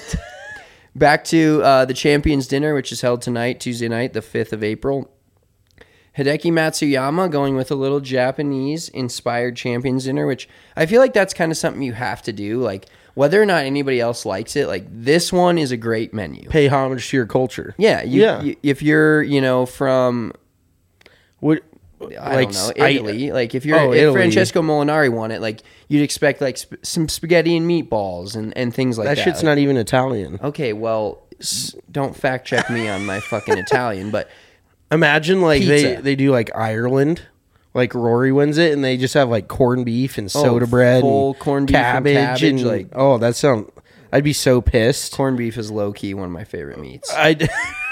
Back to uh, the Champions Dinner, which is held tonight, Tuesday night, the fifth of April. Hideki Matsuyama going with a little Japanese-inspired Champions Dinner, which I feel like that's kind of something you have to do. Like, whether or not anybody else likes it, like, this one is a great menu. Pay homage to your culture. Yeah, you, Yeah. you- if you're, you know, from What I like, don't know, I- Italy. like if you're Oh, if Italy. Francesco Molinari won it, like you'd expect like sp- some spaghetti and meatballs and, and things like that. that shit's Like, not even Italian. okay. Well, s- don't fact check me on my fucking Italian, but Imagine like they, Pizza. they do like Ireland, like Rory wins it, and they just have like corned beef and soda bread, Oh, full and corned beef and cabbage, cabbage, and like- oh, that sound. I'd be so pissed. corned beef is low key one of my favorite meats. I.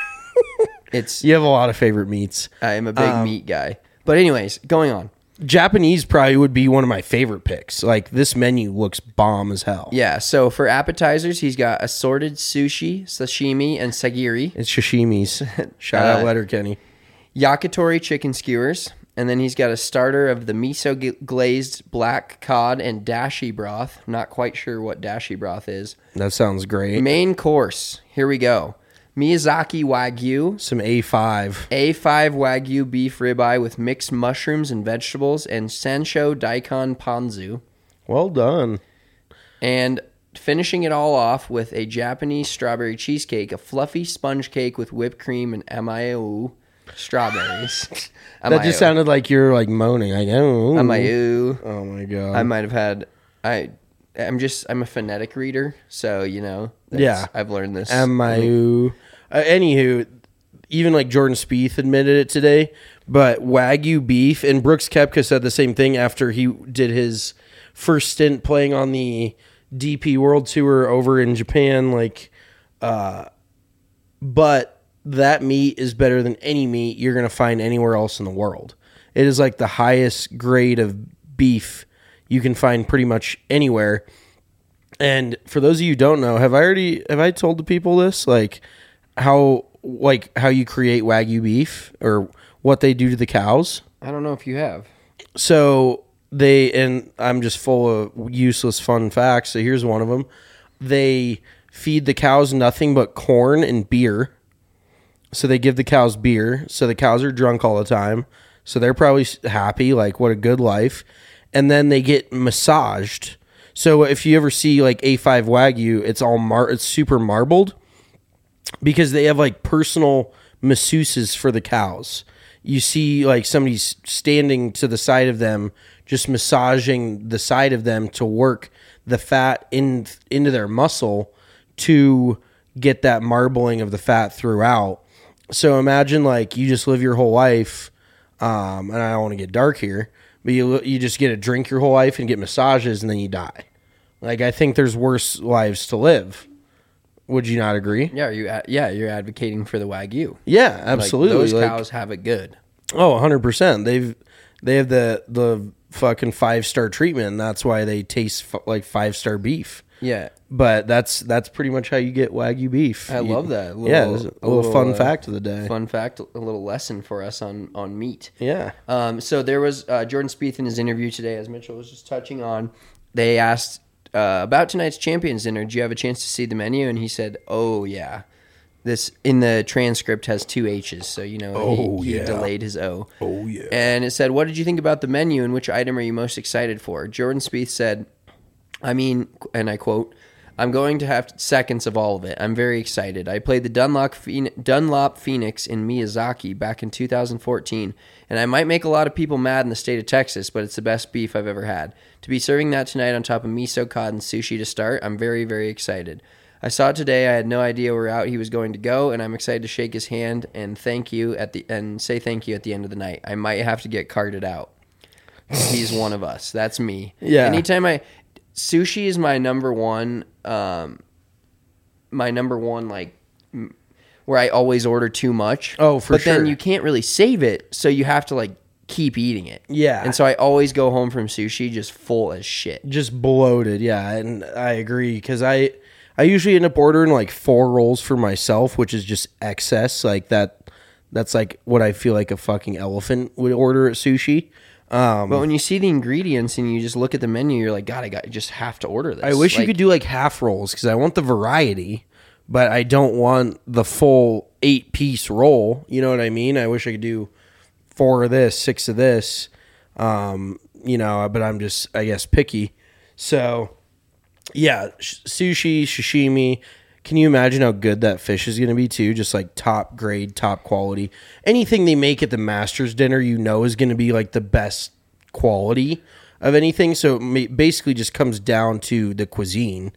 It's You have a lot of favorite meats. I am a big Um, meat guy. But anyways, going on. Japanese probably would be one of my favorite picks. Like this menu looks bomb as hell. Yeah. So for appetizers, he's got assorted sushi, sashimi, and sagiri. It's sashimi's. Shout Uh, out Letterkenny. Yakitori chicken skewers, and then he's got a starter of the miso g- glazed black cod and dashi broth. Not quite sure what dashi broth is. That sounds great. Main course. Here we go. Miyazaki Wagyu, Some A five. A five Wagyu beef ribeye with mixed mushrooms and vegetables, and Sansho daikon ponzu. Well done. And finishing it all off with a Japanese strawberry cheesecake, a fluffy sponge cake with whipped cream and amayu strawberries. That just sounded like you're like moaning. Like, oh, Amayu. oh my god. I might have had. I. I'm just. I'm a phonetic reader, so you know. that's- Yeah. I've learned this. Amayu. Uh, anywho, even like Jordan Spieth admitted it today, but Wagyu beef, and Brooks Koepka said the same thing after he did his first stint playing on the D P World Tour over in Japan. Like, uh, but that meat is better than any meat you're gonna find anywhere else in the world. It is like the highest grade of beef you can find pretty much anywhere. And for those of you who don't know, have I already have I told the people this? Like how like how you create Wagyu beef or what they do to the cows? I don't know if you have. So they, and I'm just full of useless fun facts. So here's one of them. They feed the cows nothing but corn and beer. So they give the cows beer. So the cows are drunk all the time. So they're probably happy, like what a good life. And then they get massaged. So if you ever see like A five Wagyu, it's all mar- it's super marbled. because they have like personal masseuses for the cows. You see like somebody's standing to the side of them, just massaging the side of them to work the fat in into their muscle to get that marbling of the fat throughout. So imagine like you just live your whole life, um, and I don't want to get dark here, but you you just get to drink your whole life and get massages and then you die. Like I think there's worse lives to live. Would you not agree? Yeah, are you ad- yeah, you're advocating for the Wagyu. Yeah, absolutely. Like, those Like, cows have it good. oh, one hundred percent. They've they have the the fucking five-star treatment, and that's why they taste f- like five-star beef. Yeah. But that's that's pretty much how you get Wagyu beef. I You- love that. A yeah, little- it's a a little, little, fun uh, fact of the day. Fun fact, a little lesson for us on, on meat. Yeah. Um, so there was uh, Jordan Spieth in his interview today, as Mitchell was just touching on. They asked uh, about tonight's Champions Dinner. Did you have a chance to see the menu? And he said, "Oh yeah." This in the transcript has two H's, so you know Oh, he, he yeah. delayed his O. Oh, yeah. And it said, "What did you think about the menu, and which item are you most excited for?" Jordan Spieth said, "I mean," and I quote, "I'm going to have seconds of all of it. I'm very excited. I played the Dunlop, Phoen- Dunlop Phoenix in Miyazaki back in two thousand fourteen, and I might make a lot of people mad in the state of Texas, but it's the best beef I've ever had. To be serving that tonight on top of miso cod and sushi to start, I'm very, very excited. I saw it today. I had no idea where out he was going to go, and I'm excited to shake his hand and thank you at the and say thank you at the end of the night. I might have to get carted out. He's one of us. That's me. Yeah. Anytime I sushi is my number one, um, my number one like m- where I always order too much. Oh, for but then sure. you can't really save it, so you have to like keep eating it. Yeah. and so I always go home from sushi just full as shit. Just bloated, yeah, and I agree because I I usually end up ordering like four rolls for myself, which is just excess. Like that, that's like what I feel like a fucking elephant would order at sushi. Um, But when you see the ingredients and you just look at the menu, you're like, God, I got I just have to order this. I wish you Like, could do like half rolls because I want the variety, but I don't want the full eight piece roll. You know what I mean? I wish I could do four of this, six of this. Um, you know, but I'm just, I guess, picky. So, yeah, sh- sushi, sashimi. Can you imagine how good that fish is going to be too? Just like top grade, top quality. Anything they make at the Masters dinner, you know, is going to be like the best quality of anything. So it ma- basically just comes down to the cuisine.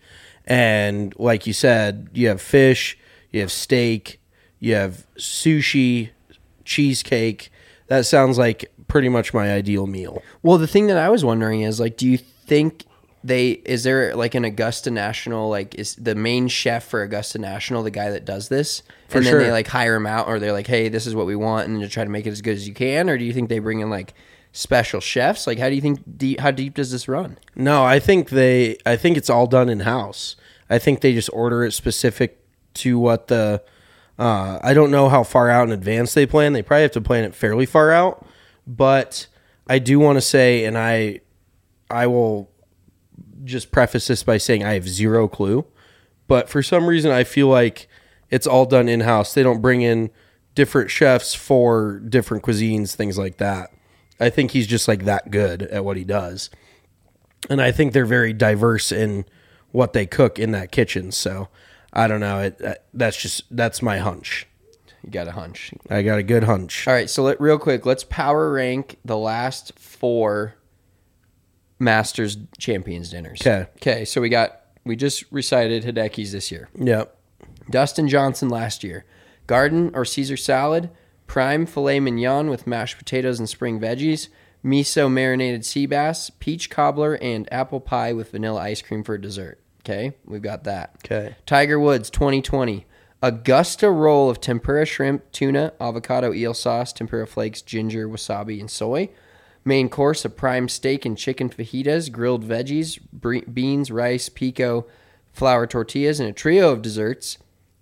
And like you said, you have fish, you have steak, you have sushi, cheesecake. That sounds like pretty much my ideal meal. Well, the thing that I was wondering is like, do you think they is there like an Augusta National, like is the main chef for Augusta National the guy that does this, For and then sure. they like hire him out, or they're like, hey, this is what we want, and you try to make it as good as you can, or do you think they bring in like special chefs? Like, how do you think deep, how deep does this run? No, I think they. I think it's all done in house. I think they just order it specific to what the. Uh, I don't know how far out in advance they plan. They probably have to plan it fairly far out, but I do want to say, and I, I will just preface this by saying I have zero clue, but for some reason I feel like it's all done in house. They don't bring in different chefs for different cuisines, things like that. I think he's just like that good at what he does. And I think they're very diverse in what they cook in that kitchen. So I don't know. It, that- that's just, that's my hunch. You got a hunch. I got a good hunch. All right, so let, real quick, let's power rank the last four Masters Champions dinners. 'Kay. Okay, so we got, we just recited Hideki's this year. Yep. Dustin Johnson last year. Garden or Caesar salad, prime filet mignon with mashed potatoes and spring veggies, miso marinated sea bass, peach cobbler, and apple pie with vanilla ice cream for dessert. Okay, we've got that. Okay. Tiger Woods twenty twenty. Augusta roll of tempura shrimp, tuna, avocado eel sauce, tempura flakes, ginger, wasabi, and soy. Main course, a prime steak and chicken fajitas, grilled veggies, bre- beans, rice, pico, flour tortillas, and a trio of desserts.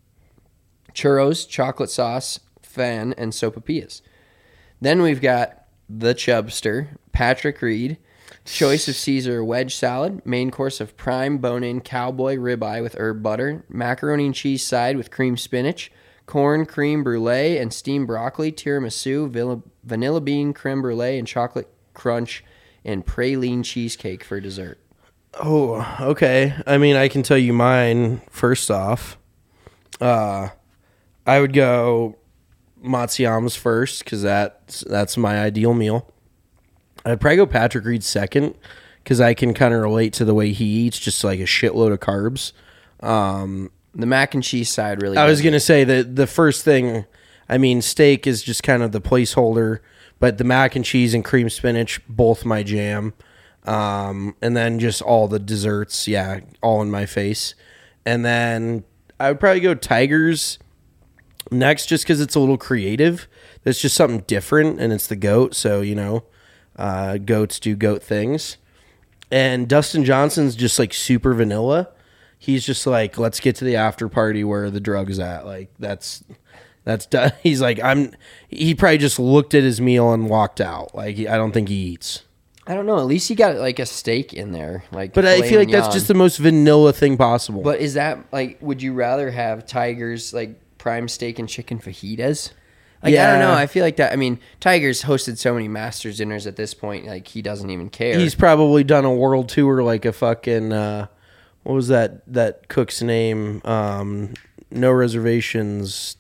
Churros, chocolate sauce, fan, and sopapillas. Then we've got the Chubster, Patrick Reed, choice of Caesar wedge salad, main course of prime bone-in cowboy ribeye with herb butter, macaroni and cheese side with cream spinach, corn cream brulee and steamed broccoli, tiramisu, villa- vanilla bean creme brulee, and chocolate crunch, and praline cheesecake for dessert. Oh, okay. I mean, I can tell you mine first off. Uh, I would go Matsuyama's first because that's that's my ideal meal. I'd probably go Patrick Reed second because I can kind of relate to the way he eats, just like a shitload of carbs. Um, The mac and cheese side really. I was does gonna say that the first thing, I mean, steak is just kind of the placeholder, but the mac and cheese and cream spinach, both my jam. Um, and then just all the desserts, yeah, all in my face. And then I would probably go Tigers next just because it's a little creative. It's just something different, and it's the goat, so, you know, uh, goats do goat things. And Dustin Johnson's just, like, super vanilla. He's just like, let's get to the after party where the drug is at. Like, that's... That's done. He's like, I'm. He probably just looked at his meal and walked out. Like, he, I don't think he eats. I don't know. At least he got like a steak in there. Like, But I filet feel like that's mignon. just the most vanilla thing possible. But is that like? Would you rather have Tiger's like prime steak and chicken fajitas? Like, I don't know. Yeah. I feel like that. I mean, Tiger's hosted so many Masters dinners at this point. Like, he doesn't even care. He's probably done a world tour like a fucking. Uh, what was that? That cook's name? Um, no reservations.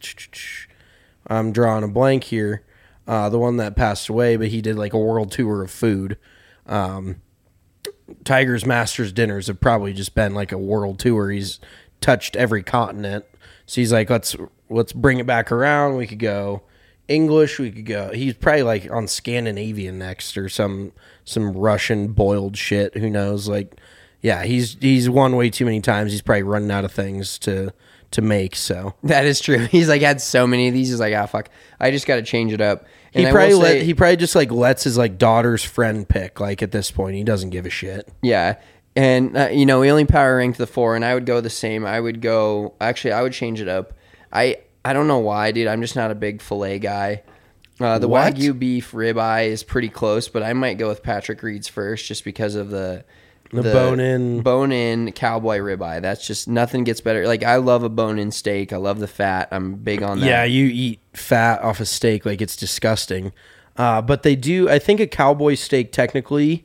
I'm drawing a blank here. Uh, the one that passed away, but he did like a world tour of food. Um, Tiger's Masters dinners have probably just been like a world tour. He's touched every continent. So he's like, let's let's bring it back around. We could go English. We could go. He's probably like on Scandinavian next or some some Russian boiled shit. Who knows? Like, yeah, he's he's won way too many times. He's probably running out of things to to make. So That is true. He's like had so many of these. He's like, ah, fuck. I just got to change it up. And he I probably will let say- he probably just like lets his like daughter's friend pick. Like at this point, he doesn't give a shit. Yeah. And, uh, you know, we only power ranked the four, and I would go the same. I would go, actually, I would change it up. I I don't know why, dude. I'm just not a big filet guy. Uh, the What? Wagyu beef ribeye is pretty close, but I might go with Patrick Reed's first just because of the The bone-in. bone-in cowboy ribeye. That's just, nothing gets better. Like, I love a bone-in steak. I love the fat. I'm big on that. Yeah, you eat fat off a steak like it's disgusting. Uh, but they do. I think a cowboy steak technically.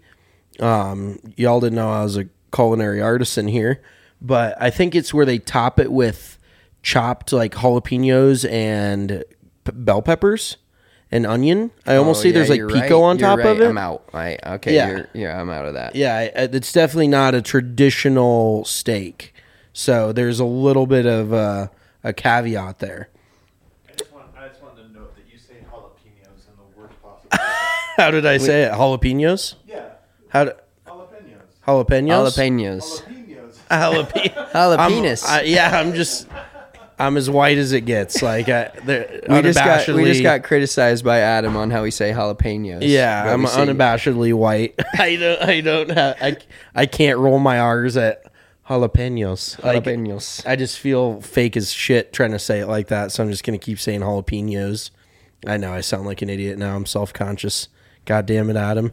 Um, y'all didn't know I was a culinary artisan here, but I think it's where they top it with chopped like jalapenos and p- bell peppers and onion. I almost Oh, see yeah, there's like you're pico right. on You're top right. of it. I'm out. I, okay, Yeah. You're, yeah, I'm out of that. Yeah, I- it's definitely not a traditional steak. So there's a little bit of uh, a caveat there. I just, want, I just wanted to note that you say jalapenos in the worst possible way. How did I say it? Jalapenos? Yeah, How do, jalapenos. jalapenos? Jalapenos. Jalapenos. Jalapeno. Jalapenos. I'm- I- yeah, I'm just, I'm as white as it gets. Like, I, they're We just got we just unabashedly- got criticized by Adam on how we say jalapenos. Yeah, But I'm we say- unabashedly white. I don't, I don't have, I, I can't roll my R's at jalapenos. Like, jalapenos. I just feel fake as shit trying to say it like that, so I'm just gonna keep saying jalapenos. I know I sound like an idiot now. I'm self conscious. God damn it, Adam.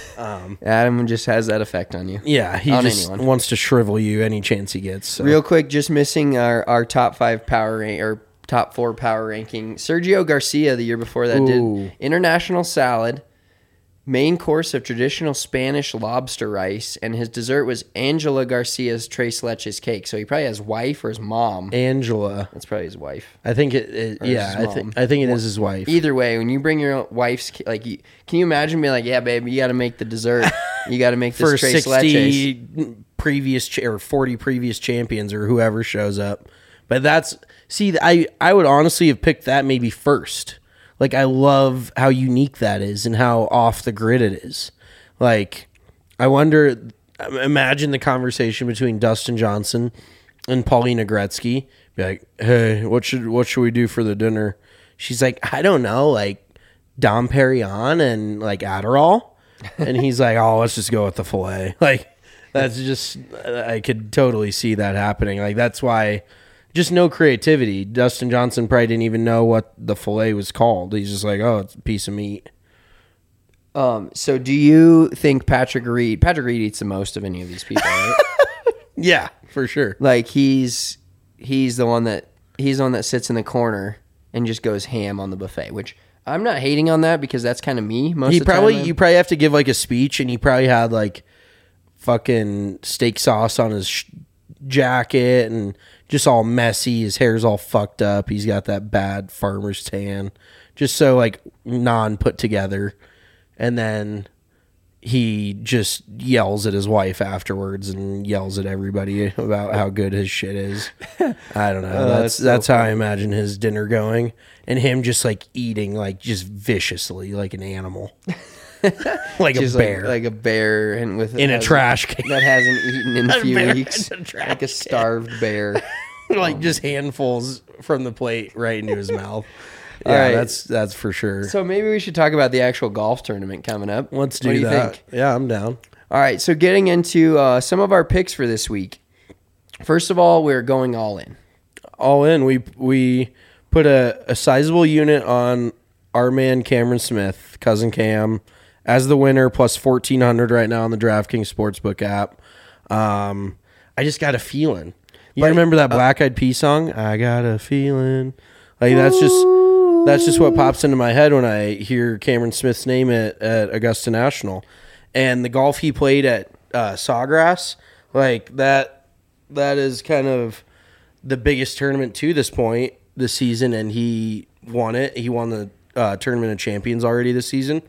Adam just has that effect on you. Yeah, he On just anyone. wants to shrivel you any chance he gets. So. Real quick, just missing our, our top five power rank or top four power ranking. Sergio Garcia the year before that Ooh. did international salad, main course of traditional Spanish lobster rice, and his dessert was Angela Garcia's tres leches cake. So he probably has wife or his mom. Angela. That's probably his wife. I think it. it Or his yeah, I mom. think I think it is his wife. Either way, when you bring your wife's ki- like, you, can you imagine being like, yeah, babe, you got to make the dessert. You got to make this For tres leches. sixty previous ch- or forty previous champions or whoever shows up. But that's see, I I would honestly have picked that maybe first. Like, I love how unique that is and how off the grid it is. Like, I wonder, imagine the conversation between Dustin Johnson and Paulina Gretzky. Be like, hey, what should what should we do for the dinner? She's like, I don't know, like Dom Perignon and like Adderall. And he's like, oh, let's just go with the filet. Like, that's just, I could totally see that happening. Like, that's why, just no creativity. Dustin Johnson probably didn't even know what the filet was called. He's just like, oh, it's a piece of meat. Um, so do you think Patrick Reed, Patrick Reed eats the most of any of these people, right? Yeah, for sure. Like, he's, he's the one that, he's the one that sits in the corner and just goes ham on the buffet, which I'm not hating on that because that's kind of me most He of the probably, time. you probably have to give like a speech, and he probably had like fucking steak sauce on his sh- jacket and just all messy. His hair's all fucked up. He's got that bad farmer's tan, just so like non put together. And then he just yells at his wife afterwards and yells at everybody about how good his shit is. I don't know. Oh, that's that's so that's how I funny. imagine his dinner going, and him just like eating like just viciously like an animal, like Just a bear, like, like a bear, and with in a has- trash can, that hasn't eaten in a few bear in weeks, a trash like a starved bear. like just handfuls from the plate right into his mouth. Yeah, All right. that's that's for sure. So maybe we should talk about the actual golf tournament coming up. Let's do, what do you that. think? Yeah, I'm down. All right, so getting into uh, some of our picks for this week. First of all, we're going all in. All in. We we put a, a sizable unit on our man Cameron Smith, cousin Cam, as the winner, plus fourteen hundred right now on the DraftKings Sportsbook app. Um, I just got a feeling. You But- remember that Black Eyed Peas song? I got a feeling. Like that's just that's just what pops into my head when I hear Cameron Smith's name at, at Augusta National, and the golf he played at uh, Sawgrass. Like that that is kind of the biggest tournament to this point this season, and he won it. He won the uh, Tournament of Champions already this season.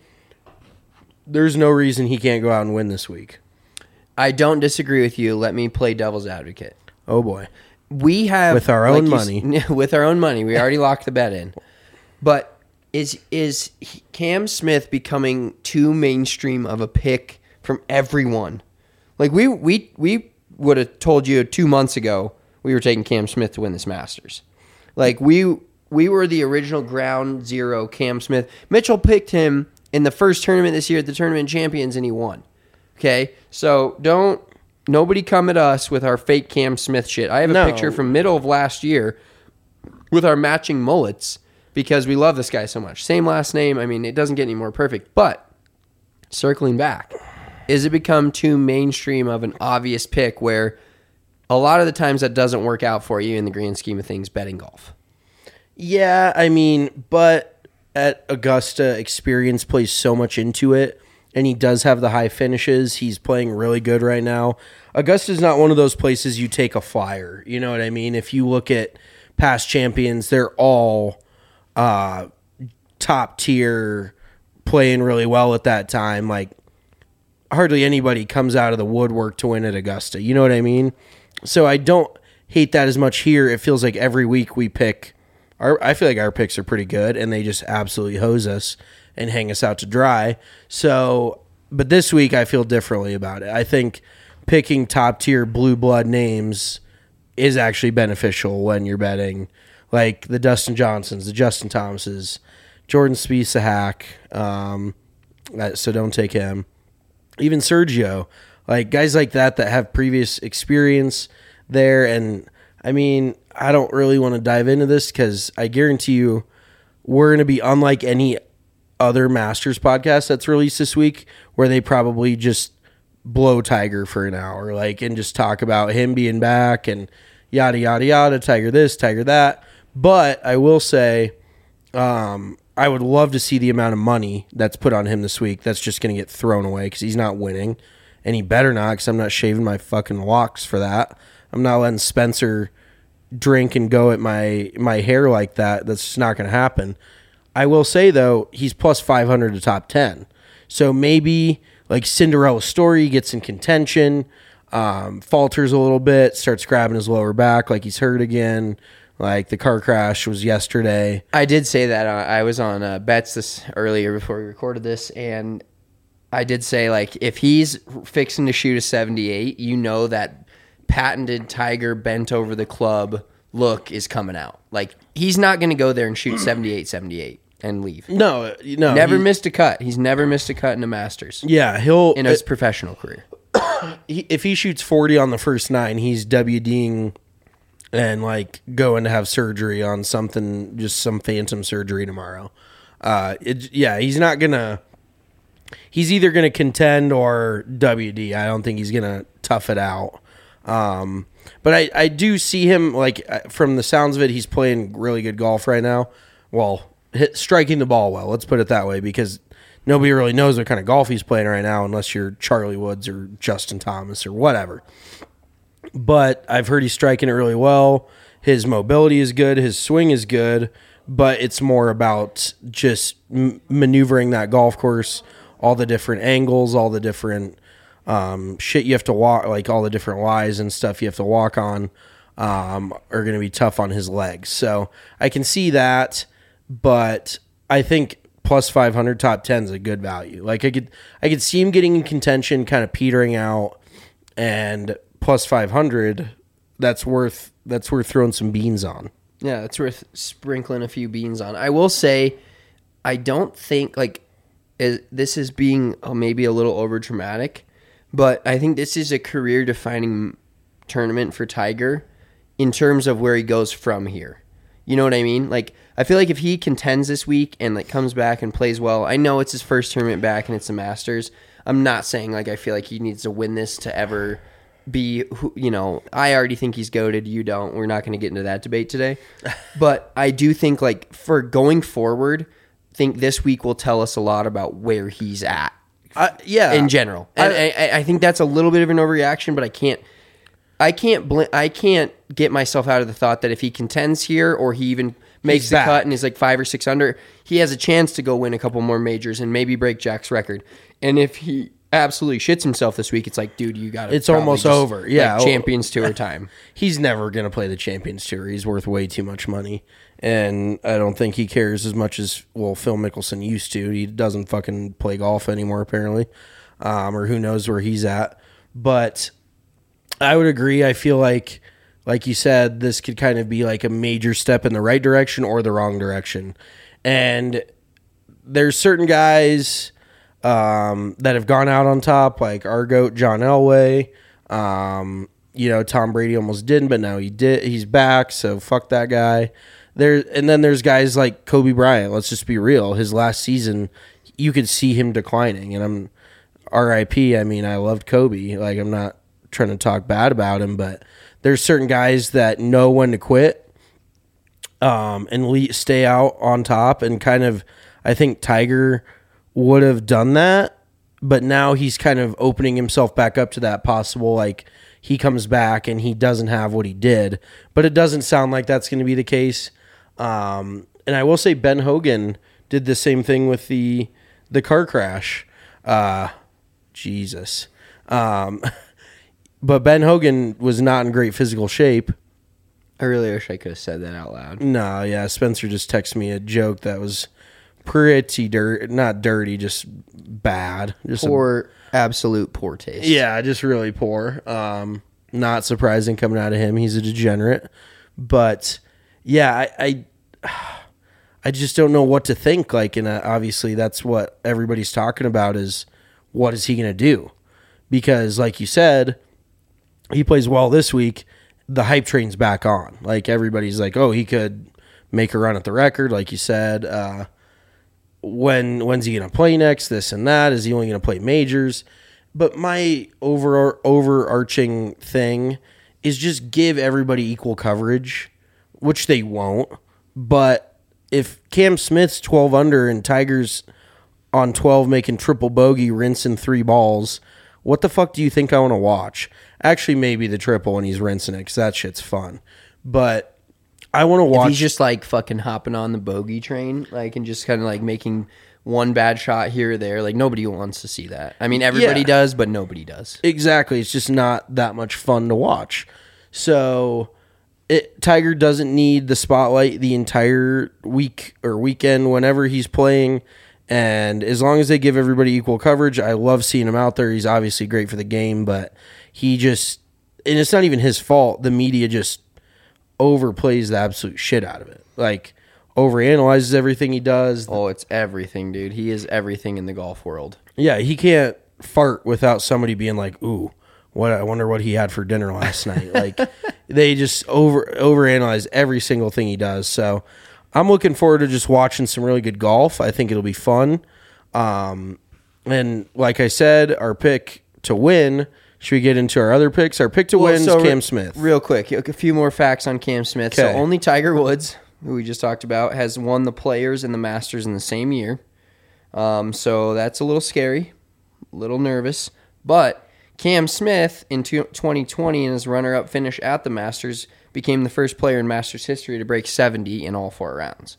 There's no reason he can't go out and win this week. I don't disagree with you. Let me play devil's advocate. Oh boy. We have With our own you s- money. with our own money. We already locked the bet in. But is is Cam Smith becoming too mainstream of a pick from everyone? Like we we we would have told you two months ago we were taking Cam Smith to win this Masters. Like we we were the original ground zero Cam Smith. Mitchell picked him in the first tournament this year at the Tournament of Champions, and he won. Okay, so don't nobody come at us with our fake Cam Smith shit. I have a No. picture from middle of last year with our matching mullets because we love this guy so much. Same last name. I mean, it doesn't get any more perfect. But circling back, is it become too mainstream of an obvious pick where a lot of the times that doesn't work out for you in the grand scheme of things betting golf? Yeah, I mean, but at Augusta, experience plays so much into it, and he does have the high finishes. He's playing really good right now. Augusta's not one of those places you take a flyer. You know what I mean? If you look at past champions, they're all uh, top tier, playing really well at that time. Like, hardly anybody comes out of the woodwork to win at Augusta. You know what I mean? So I don't hate that as much here. It feels like every week we pick our, I feel like our picks are pretty good, and they just absolutely hose us and hang us out to dry. So, but this week I feel differently about it. I think picking top tier blue blood names is actually beneficial when you're betting, like the Dustin Johnsons, the Justin Thomases, Jordan Spieth, a hack. Um, uh, so don't take him. Even Sergio, like guys like that that have previous experience there. And I mean, I don't really want to dive into this because I guarantee you we're going to be unlike any other Masters podcast that's released this week, where they probably just blow Tiger for an hour, like, and just talk about him being back and yada, yada, yada, Tiger this, Tiger that. But I will say, um, I would love to see the amount of money that's put on him this week that's just going to get thrown away because he's not winning. And he better not, because I'm not shaving my fucking locks for that. I'm not letting Spencer drink and go at my, my hair like that. That's just not going to happen. I will say, though, he's plus five hundred to top ten. So maybe, like, Cinderella Story gets in contention, um, falters a little bit, starts grabbing his lower back like he's hurt again. Like, the car crash was yesterday. I did say that. Uh, I was on uh, bets this earlier before we recorded this, and I did say, like, if he's fixing to shoot a seventy-eight, you know that patented Tiger bent over the club look is coming out. Like, he's not going to go there and shoot seventy-eight seventy-eight and leave. No, no. Never he- missed a cut. He's never missed a cut in the Masters Yeah, he'll... in his professional career. he, if he shoots forty on the first nine, he's WDing and like going to have surgery on something, just some phantom surgery tomorrow. Uh, it, yeah, he's not gonna. He's either gonna contend or W D. I don't think he's gonna tough it out. Um, but I, I do see him, like, uh, from the sounds of it, he's playing really good golf right now. Well, hit, striking the ball well. Let's put it that way, because nobody really knows what kind of golf he's playing right now unless you're Charlie Woods or Justin Thomas or whatever. but I've heard he's striking it really well. His mobility is good. His swing is good, but it's more about just m- maneuvering that golf course, all the different angles, all the different um, shit you have to walk, like all the different lies and stuff you have to walk on um, are going to be tough on his legs. So I can see that, but I think plus five hundred top ten is a good value. Like I could, I could see him getting in contention, kind of petering out, and plus five hundred, that's worth that's worth throwing some beans on. Yeah, it's worth sprinkling a few beans on. I will say, I don't think like is, this is being uh, maybe a little over dramatic, but I think this is a career defining tournament for Tiger in terms of where he goes from here. You know what I mean? Like, I feel like if he contends this week and like comes back and plays well, I know it's his first tournament back and it's the Masters. I'm not saying like I feel like he needs to win this to ever be, who, you know, I already think he's goated. You don't. We're not going to get into that debate today. But I do think like for going forward, I think this week will tell us a lot about where he's at. Uh, yeah, in general, and I, I, I think that's a little bit of an overreaction, but I can't, I can't, bl- I can't get myself out of the thought that if he contends here or he even makes He's the back. cut and is like five or six under, he has a chance to go win a couple more majors and maybe break Jack's record. And if he absolutely shits himself this week, it's like, dude, you got to. It's almost over. Yeah, like Champions Tour time. He's never going to play the Champions Tour. He's worth way too much money. And I don't think he cares as much as, well, Phil Mickelson used to. He doesn't fucking play golf anymore, apparently. Um, or who knows where he's at. But I would agree. I feel like, like you said, this could kind of be like a major step in the right direction or the wrong direction. And there's certain guys um, that have gone out on top, like our GOAT, John Elway. Um, you know, Tom Brady almost didn't, but now he did. He's back, so fuck that guy. There, and then there's guys like Kobe Bryant. Let's just be real. His last season, you could see him declining, and I'm R I P. I mean, I loved Kobe. Like, I'm not trying to talk bad about him, but there's certain guys that know when to quit um, and le- stay out on top. And kind of, I think Tiger would have done that, but now he's kind of opening himself back up to that possible, like, he comes back and he doesn't have what he did. But it doesn't sound like that's going to be the case. Um, and I will say Ben Hogan did the same thing with the the car crash. Uh, Jesus. Um, but Ben Hogan was not in great physical shape. I really wish I could have said that out loud. No, yeah. Spencer just texted me a joke that was pretty dirt, not dirty, just bad. Just Poor, a, absolute poor taste. yeah, just really poor. Um, not surprising coming out of him. He's a degenerate. But yeah, I, I, I just don't know what to think. Like, and uh, obviously that's what everybody's talking about is what is he going to do? Because like you said, he plays well this week. The hype train's back on. Like, everybody's like, oh, he could make a run at the record. Like you said, uh, when, when's he going to play next? This and that. Is he only going to play majors? But my over, overarching thing is just give everybody equal coverage, which they won't. But if Cam Smith's twelve under and Tiger's on twelve making triple bogey, rinsing three balls, what the fuck do you think I want to watch? Actually, maybe the triple when he's rinsing it, because that shit's fun. But I want to watch. If he's just like fucking hopping on the bogey train, like, and just kind of like making one bad shot here or there, like, nobody wants to see that. I mean, everybody Yeah. does, but nobody does. Exactly. It's just not that much fun to watch. So it, Tiger doesn't need the spotlight the entire week or weekend whenever he's playing. And as long as they give everybody equal coverage, I love seeing him out there. He's obviously great for the game, but he just, and it's not even his fault. The media just overplays the absolute shit out of it. Like, overanalyzes everything he does. Oh, it's everything, dude. He is everything in the golf world. Yeah, he can't fart without somebody being like, ooh, what, I wonder what he had for dinner last night. Like, they just over overanalyze every single thing he does. So I'm looking forward to just watching some really good golf. I think it'll be fun. Um, and like I said, our pick to win. Should we get into our other picks? Our pick to Well, win is so Cam re- Smith. Real quick, a few more facts on Cam Smith. So Okay. only Tiger Woods, who we just talked about, has won the Players and the Masters in the same year. Um, so that's a little scary, a little nervous. But Cam Smith in twenty twenty in his runner-up finish at the Masters became the first player in Masters history to break seventy in all four rounds.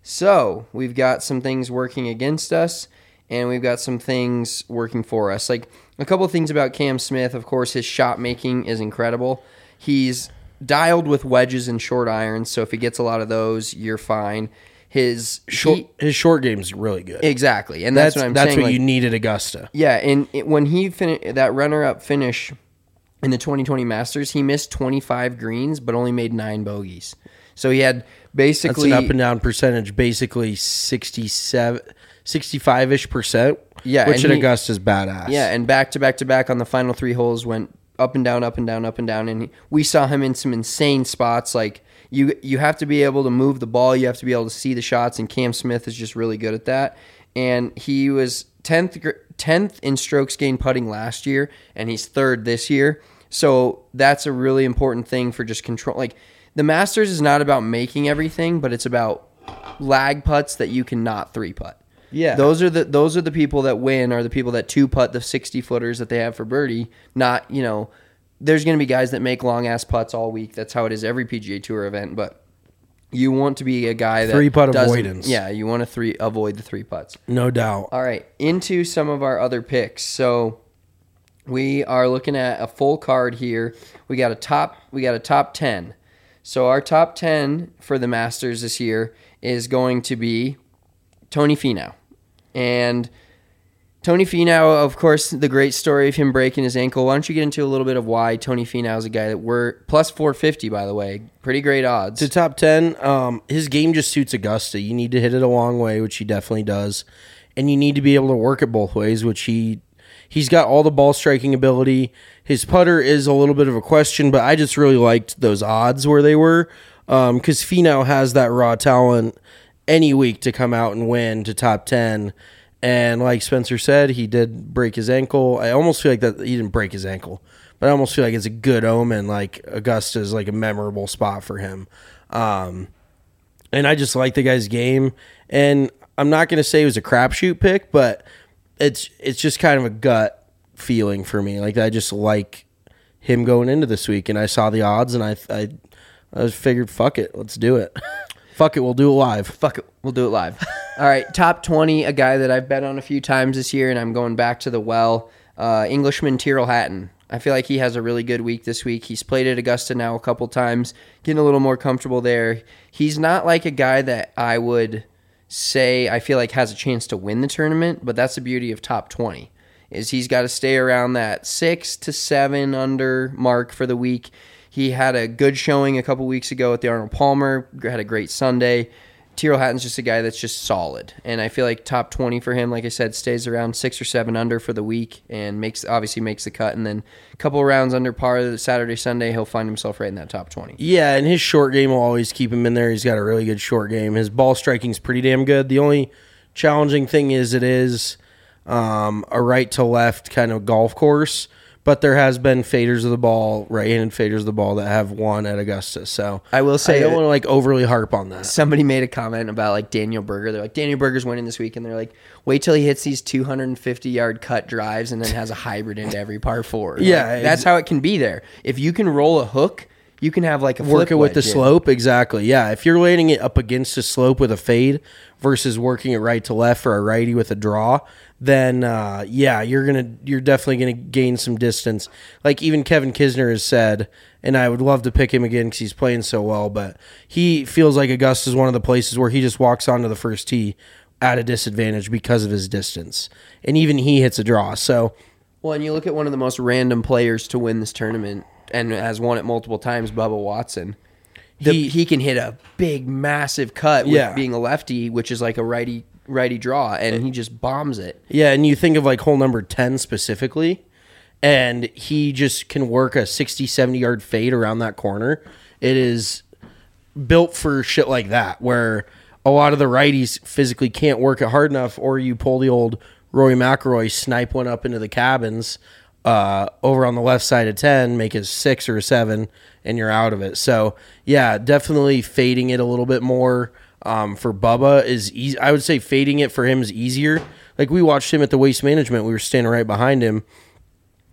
So we've got some things working against us, and we've got some things working for us. Like a couple of things about Cam Smith, of course, his shot making is incredible. He's dialed with wedges and short irons, so if he gets a lot of those, you're fine. His Short, he, his short game's really good. exactly, and that's, That's what I'm that's saying. what like, you need at Augusta. Yeah, and it, when he fin- that runner-up finish in the twenty twenty Masters, he missed twenty-five greens, but only made nine bogeys. So he had That's basically an up and down percentage, basically sixty-seven, sixty-five-ish percent. Yeah, which and at he- Augusta's badass. Yeah, and back to back to back on the final three holes went up and down, up and down, up and down, and he, we saw him in some insane spots. Like you, you have to be able to move the ball, you have to be able to see the shots, and Cam Smith is just really good at that. And he was tenth, tenth in strokes gained putting last year, and he's third this year. So that's a really important thing for just control. Like the Masters is not about making everything, but it's about lag putts that you cannot three putt. Yeah. Those are the those are the people that win, are the people that two putt the sixty footers that they have for birdie. Not, you know, there's going to be guys that make long ass putts all week. That's how it is every P G A Tour event. But you want to be a guy that Three putt doesn't- avoidance. Yeah, you want to three avoid the three putts. No doubt. All right, into some of our other picks. So we are looking at a full card here. We got a top. We got a top ten. So our top ten for the Masters this year is going to be Tony Finau. And Tony Finau, of course, the great story of him breaking his ankle. Why don't you get into a little bit of why Tony Finau is a guy that we're plus four fifty, by the way. Pretty great odds. To top ten, um, his game just suits Augusta. You need to hit it a long way, which he definitely does. And you need to be able to work it both ways, which he he's got all the ball striking ability. His putter is a little bit of a question, but I just really liked those odds where they were. Um, because Finau has that raw talent any week to come out and win to top ten. And like Spencer said, he did break his ankle. I almost feel like that he didn't break his ankle, but I almost feel like it's a good omen. Like Augusta is like a memorable spot for him. Um, and I just like the guy's game. And I'm not going to say it was a crapshoot pick, but it's it's just kind of a gut feeling for me. Like I just like him going into this week, and I saw the odds, and I I, I figured, fuck it, let's do it. Fuck it, we'll do it live. Fuck it, we'll do it live. All right, top twenty, a guy that I've bet on a few times this year, and I'm going back to the well, uh, Englishman Tyrrell Hatton. I feel like he has a really good week this week. He's played at Augusta now a couple times, getting a little more comfortable there. He's not like a guy that I would say I feel like has a chance to win the tournament, but that's the beauty of top twenty, is he's got to stay around that six to seven under mark for the week. He had a good showing a couple weeks ago at the Arnold Palmer, had a great Sunday. Tyrrell Hatton's just a guy that's just solid, and I feel like top twenty for him, like I said, stays around six or seven under for the week, and makes obviously makes the cut, and then a couple rounds under par the Saturday, Sunday, he'll find himself right in that top twenty. Yeah, and his short game will always keep him in there. He's got a really good short game. His ball striking's pretty damn good. The only challenging thing is it is um, a right to left kind of golf course, but there has been faders of the ball, right-handed faders of the ball that have won at Augusta. So I will say I don't that- want to like overly harp on that. Somebody made a comment about like Daniel Berger. They're like, Daniel Berger's winning this week, and they're like, wait till he hits these two hundred fifty yard cut drives and then has a hybrid into every par four. Like, Yeah, that's how it can be there. If you can roll a hook, you can have like a Work flip it with the wedge in. slope, exactly. Yeah, if you're landing it up against a slope with a fade versus working it right to left for a righty with a draw, then uh, yeah, you're gonna you're definitely gonna gain some distance. Like even Kevin Kisner has said, and I would love to pick him again because he's playing so well, but he feels like Augusta is one of the places where he just walks onto the first tee at a disadvantage because of his distance, and even he hits a draw. So Well, and you look at one of the most random players to win this tournament and has won it multiple times, Bubba Watson. The, he, He- can hit a big, massive cut with Yeah. being a lefty, which is like a righty righty draw, and he just bombs it. yeah, and you think of like hole number ten specifically, and he just can work a sixty, seventy yard fade around that corner. It is built for shit like that, where a lot of the righties physically can't work it hard enough, or you pull the old Rory McIlroy, snipe one up into the cabins uh, over on the left side of ten, make it six or a seven, and you're out of it. So, yeah, definitely fading it a little bit more um, for Bubba is easy. I would say fading it for him is easier. Like, we watched him at the Waste Management. We were standing right behind him,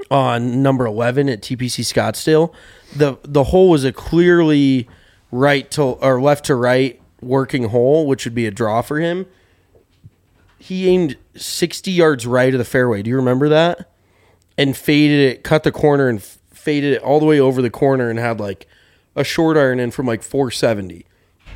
on number eleven at T P C Scottsdale, the the hole was a clearly right to or left to right working hole, which would be a draw for him. He aimed sixty yards right of the fairway. Do you remember that? And faded it, cut the corner and f- faded it all the way over the corner and had like a short iron in from like four seventy.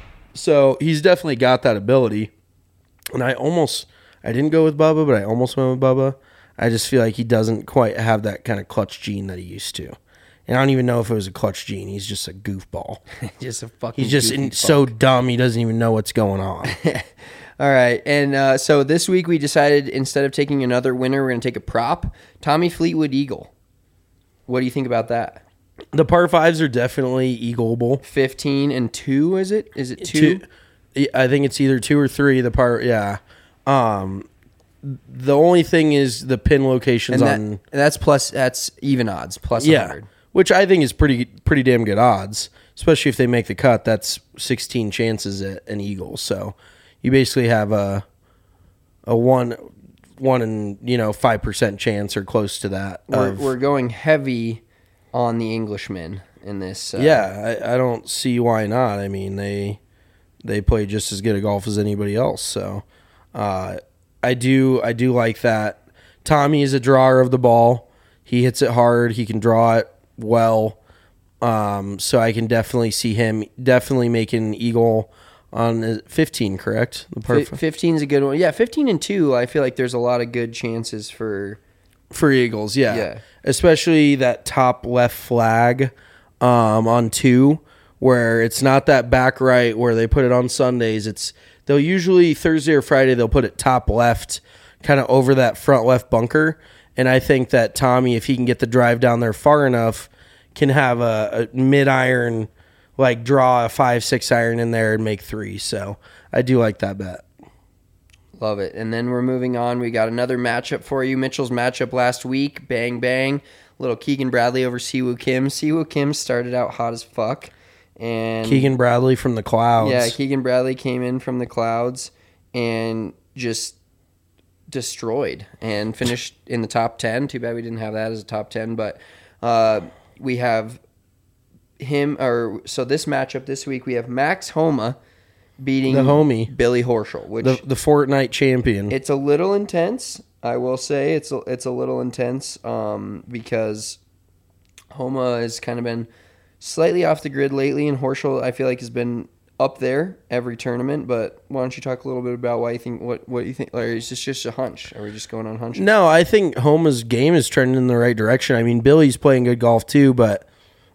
So he's definitely got that ability. And I almost, I didn't go with Bubba, but I almost went with Bubba. I just feel like he doesn't quite have that kind of clutch gene that he used to. And I don't even know if it was a clutch gene. He's just a goofball. Just a fucking He's just in, so dumb he doesn't even know what's going on. All right, and uh, so this week we decided instead of taking another winner, we're going to take a prop. Tommy Fleetwood Eagle. What do you think about that? The par fives are definitely eagleable. fifteen and two, is it? Is it two? two? I think it's either two or three. The par, yeah. Um, the only thing is the pin locations And, that, on. and that's plus. That's even odds, plus Yeah, one hundred. which I think is pretty pretty damn good odds, especially if they make the cut. That's sixteen chances at an eagle. So you basically have a a one one in you know five percent chance or close to that. We're, of- we're going heavy on the Englishmen in this. Uh, yeah, I, I don't see why not. I mean they they play just as good at golf as anybody else. So uh, I do I do like that. Tommy is a drawer of the ball. He hits it hard. He can draw it well. Um, so I can definitely see him definitely making an eagle on fifteen, correct? The par F- fifteen is a good one. Yeah, fifteen and two. I feel like there's a lot of good chances for. for eagles, yeah. Yeah. Especially that top left flag um, on two, where it's not that back right where they put it on Sundays. It's they'll usually Thursday or Friday they'll put it top left, kind of over that front left bunker. And I think that Tommy, if he can get the drive down there far enough, can have a, a mid iron, like draw a five six iron in there and make three. So I do like that bet. Love it. And then we're moving on. We got another matchup for you. Mitchell's matchup last week. Bang, bang. Little Keegan Bradley over Siwoo Kim. Siwoo Kim started out hot as fuck. And Keegan Bradley from the clouds. Yeah, Keegan Bradley came in from the clouds and just destroyed and finished in the top ten. Too bad we didn't have that as a top ten. But uh, we have him. or So this matchup this week, we have Max Homa beating The homie. Billy Horschel, which the, the Fortnite champion. it's a little intense. I will say it's a, it's a little intense um, because Homa has kind of been slightly off the grid lately, and Horschel I feel like has been up there every tournament. But why don't you talk a little bit about why you think what what you think? Or is this just a hunch? Are we just going on hunches? No, I think Homa's game is trending in the right direction. I mean, Billy's playing good golf too, but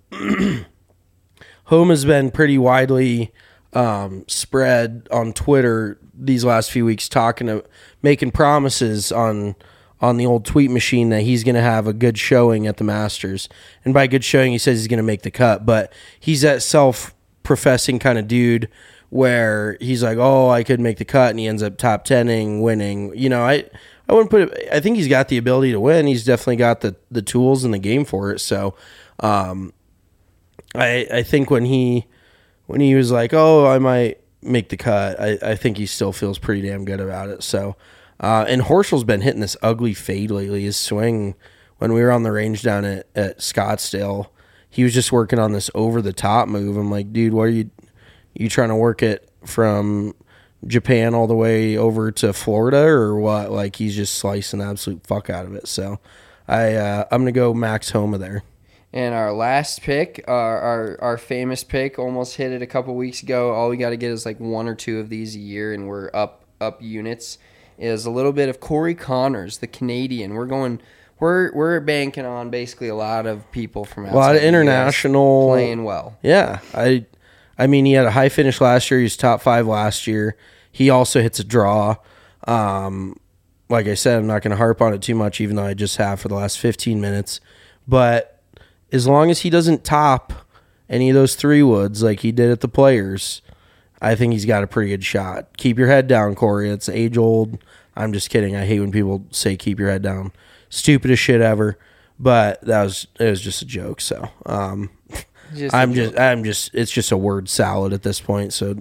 Homa's been pretty widely um, spread on Twitter these last few weeks, talking to making promises on on the old tweet machine that he's going to have a good showing at the Masters. And by good showing, he says he's going to make the cut, but he's that self-professing kind of dude where he's like, oh, I could make the cut, and he ends up top tenning, winning. You know, I I wouldn't put it. I think he's got the ability to win. He's definitely got the the tools and the game for it. So, um, I I think when he when he was like, oh, I might make the cut, I, I think he still feels pretty damn good about it. So, uh, and Horschel's been hitting this ugly fade lately. His swing, when we were on the range down at, at Scottsdale, he was just working on this over the top move. I'm like, dude, what are you you trying to work it from Japan all the way over to Florida or what? Like, he's just slicing the absolute fuck out of it. So I uh, I'm gonna go Max Homa there. And our last pick, our, our our famous pick, almost hit it a couple weeks ago. All we got to get is like one or two of these a year, and we're up up units. Is a little bit of Corey Connors, the Canadian. We're going, we're we're banking on basically a lot of people from outside A lot of the U S international playing well. Yeah, I I mean he had a high finish last year. He was top five last year. He also hits a draw. Um, like I said, I'm not going to harp on it too much, even though I just have for the last fifteen minutes. But as long as he doesn't top any of those three woods like he did at the Players, I think he's got a pretty good shot. Keep your head down, Corey. It's age old. I'm just kidding. I hate when people say keep your head down. Stupidest shit ever. But that was it was just a joke. So um, Just a I'm joke. just I'm just it's just a word salad at this point. So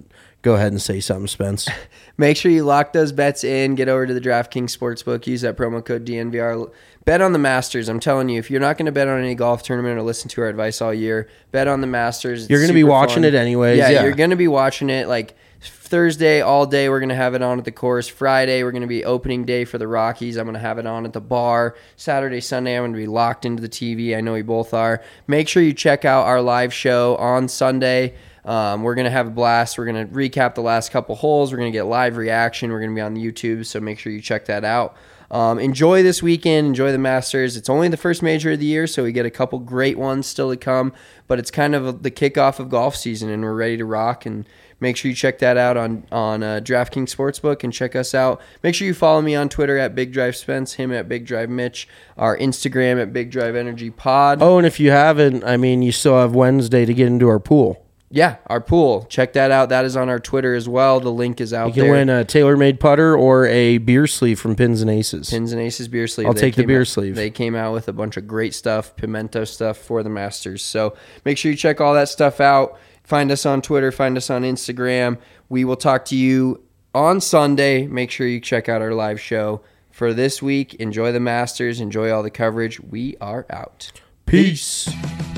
Go ahead and say something, Spence. Make sure you lock those bets in. Get over to the DraftKings Sportsbook. Use that promo code D N V R. Bet on the Masters. I'm telling you, if you're not going to bet on any golf tournament or listen to our advice all year, bet on the Masters. It's You're going to be super watching fun. it anyways. Yeah, Yeah, you're going to be watching it. Like Thursday all day, we're going to have it on at the course. Friday, we're going to be opening day for the Rockies. I'm going to have it on at the bar. Saturday, Sunday, I'm going to be locked into the T V. I know we both are. Make sure you check out our live show on Sunday. Um, we're going to have a blast. We're going to recap the last couple holes. We're going to get live reaction. We're going to be on YouTube, so make sure you check that out. Um, enjoy this weekend. Enjoy the Masters. It's only the first major of the year, so we get a couple great ones still to come, but it's kind of the kickoff of golf season, and we're ready to rock. And make sure you check that out on, on uh, DraftKings Sportsbook and check us out. Make sure you follow me on Twitter at Big Drive Spence, him at Big Drive Mitch, our Instagram at Big Drive Energy Pod. Oh, and if you haven't, I mean, you still have Wednesday to get into our pool. Yeah, our pool. Check that out. That is on our Twitter as well. The link is out You can there. win a tailor-made putter or a beer sleeve from Pins and Aces. Pins and Aces beer sleeve. I'll They take the came beer out- sleeve. They came out with a bunch of great stuff, pimento stuff for the Masters. So make sure you check all that stuff out. Find us on Twitter. Find us on Instagram. We will talk to you on Sunday. Make sure you check out our live show. For this week, enjoy the Masters. Enjoy all the coverage. We are out. Peace.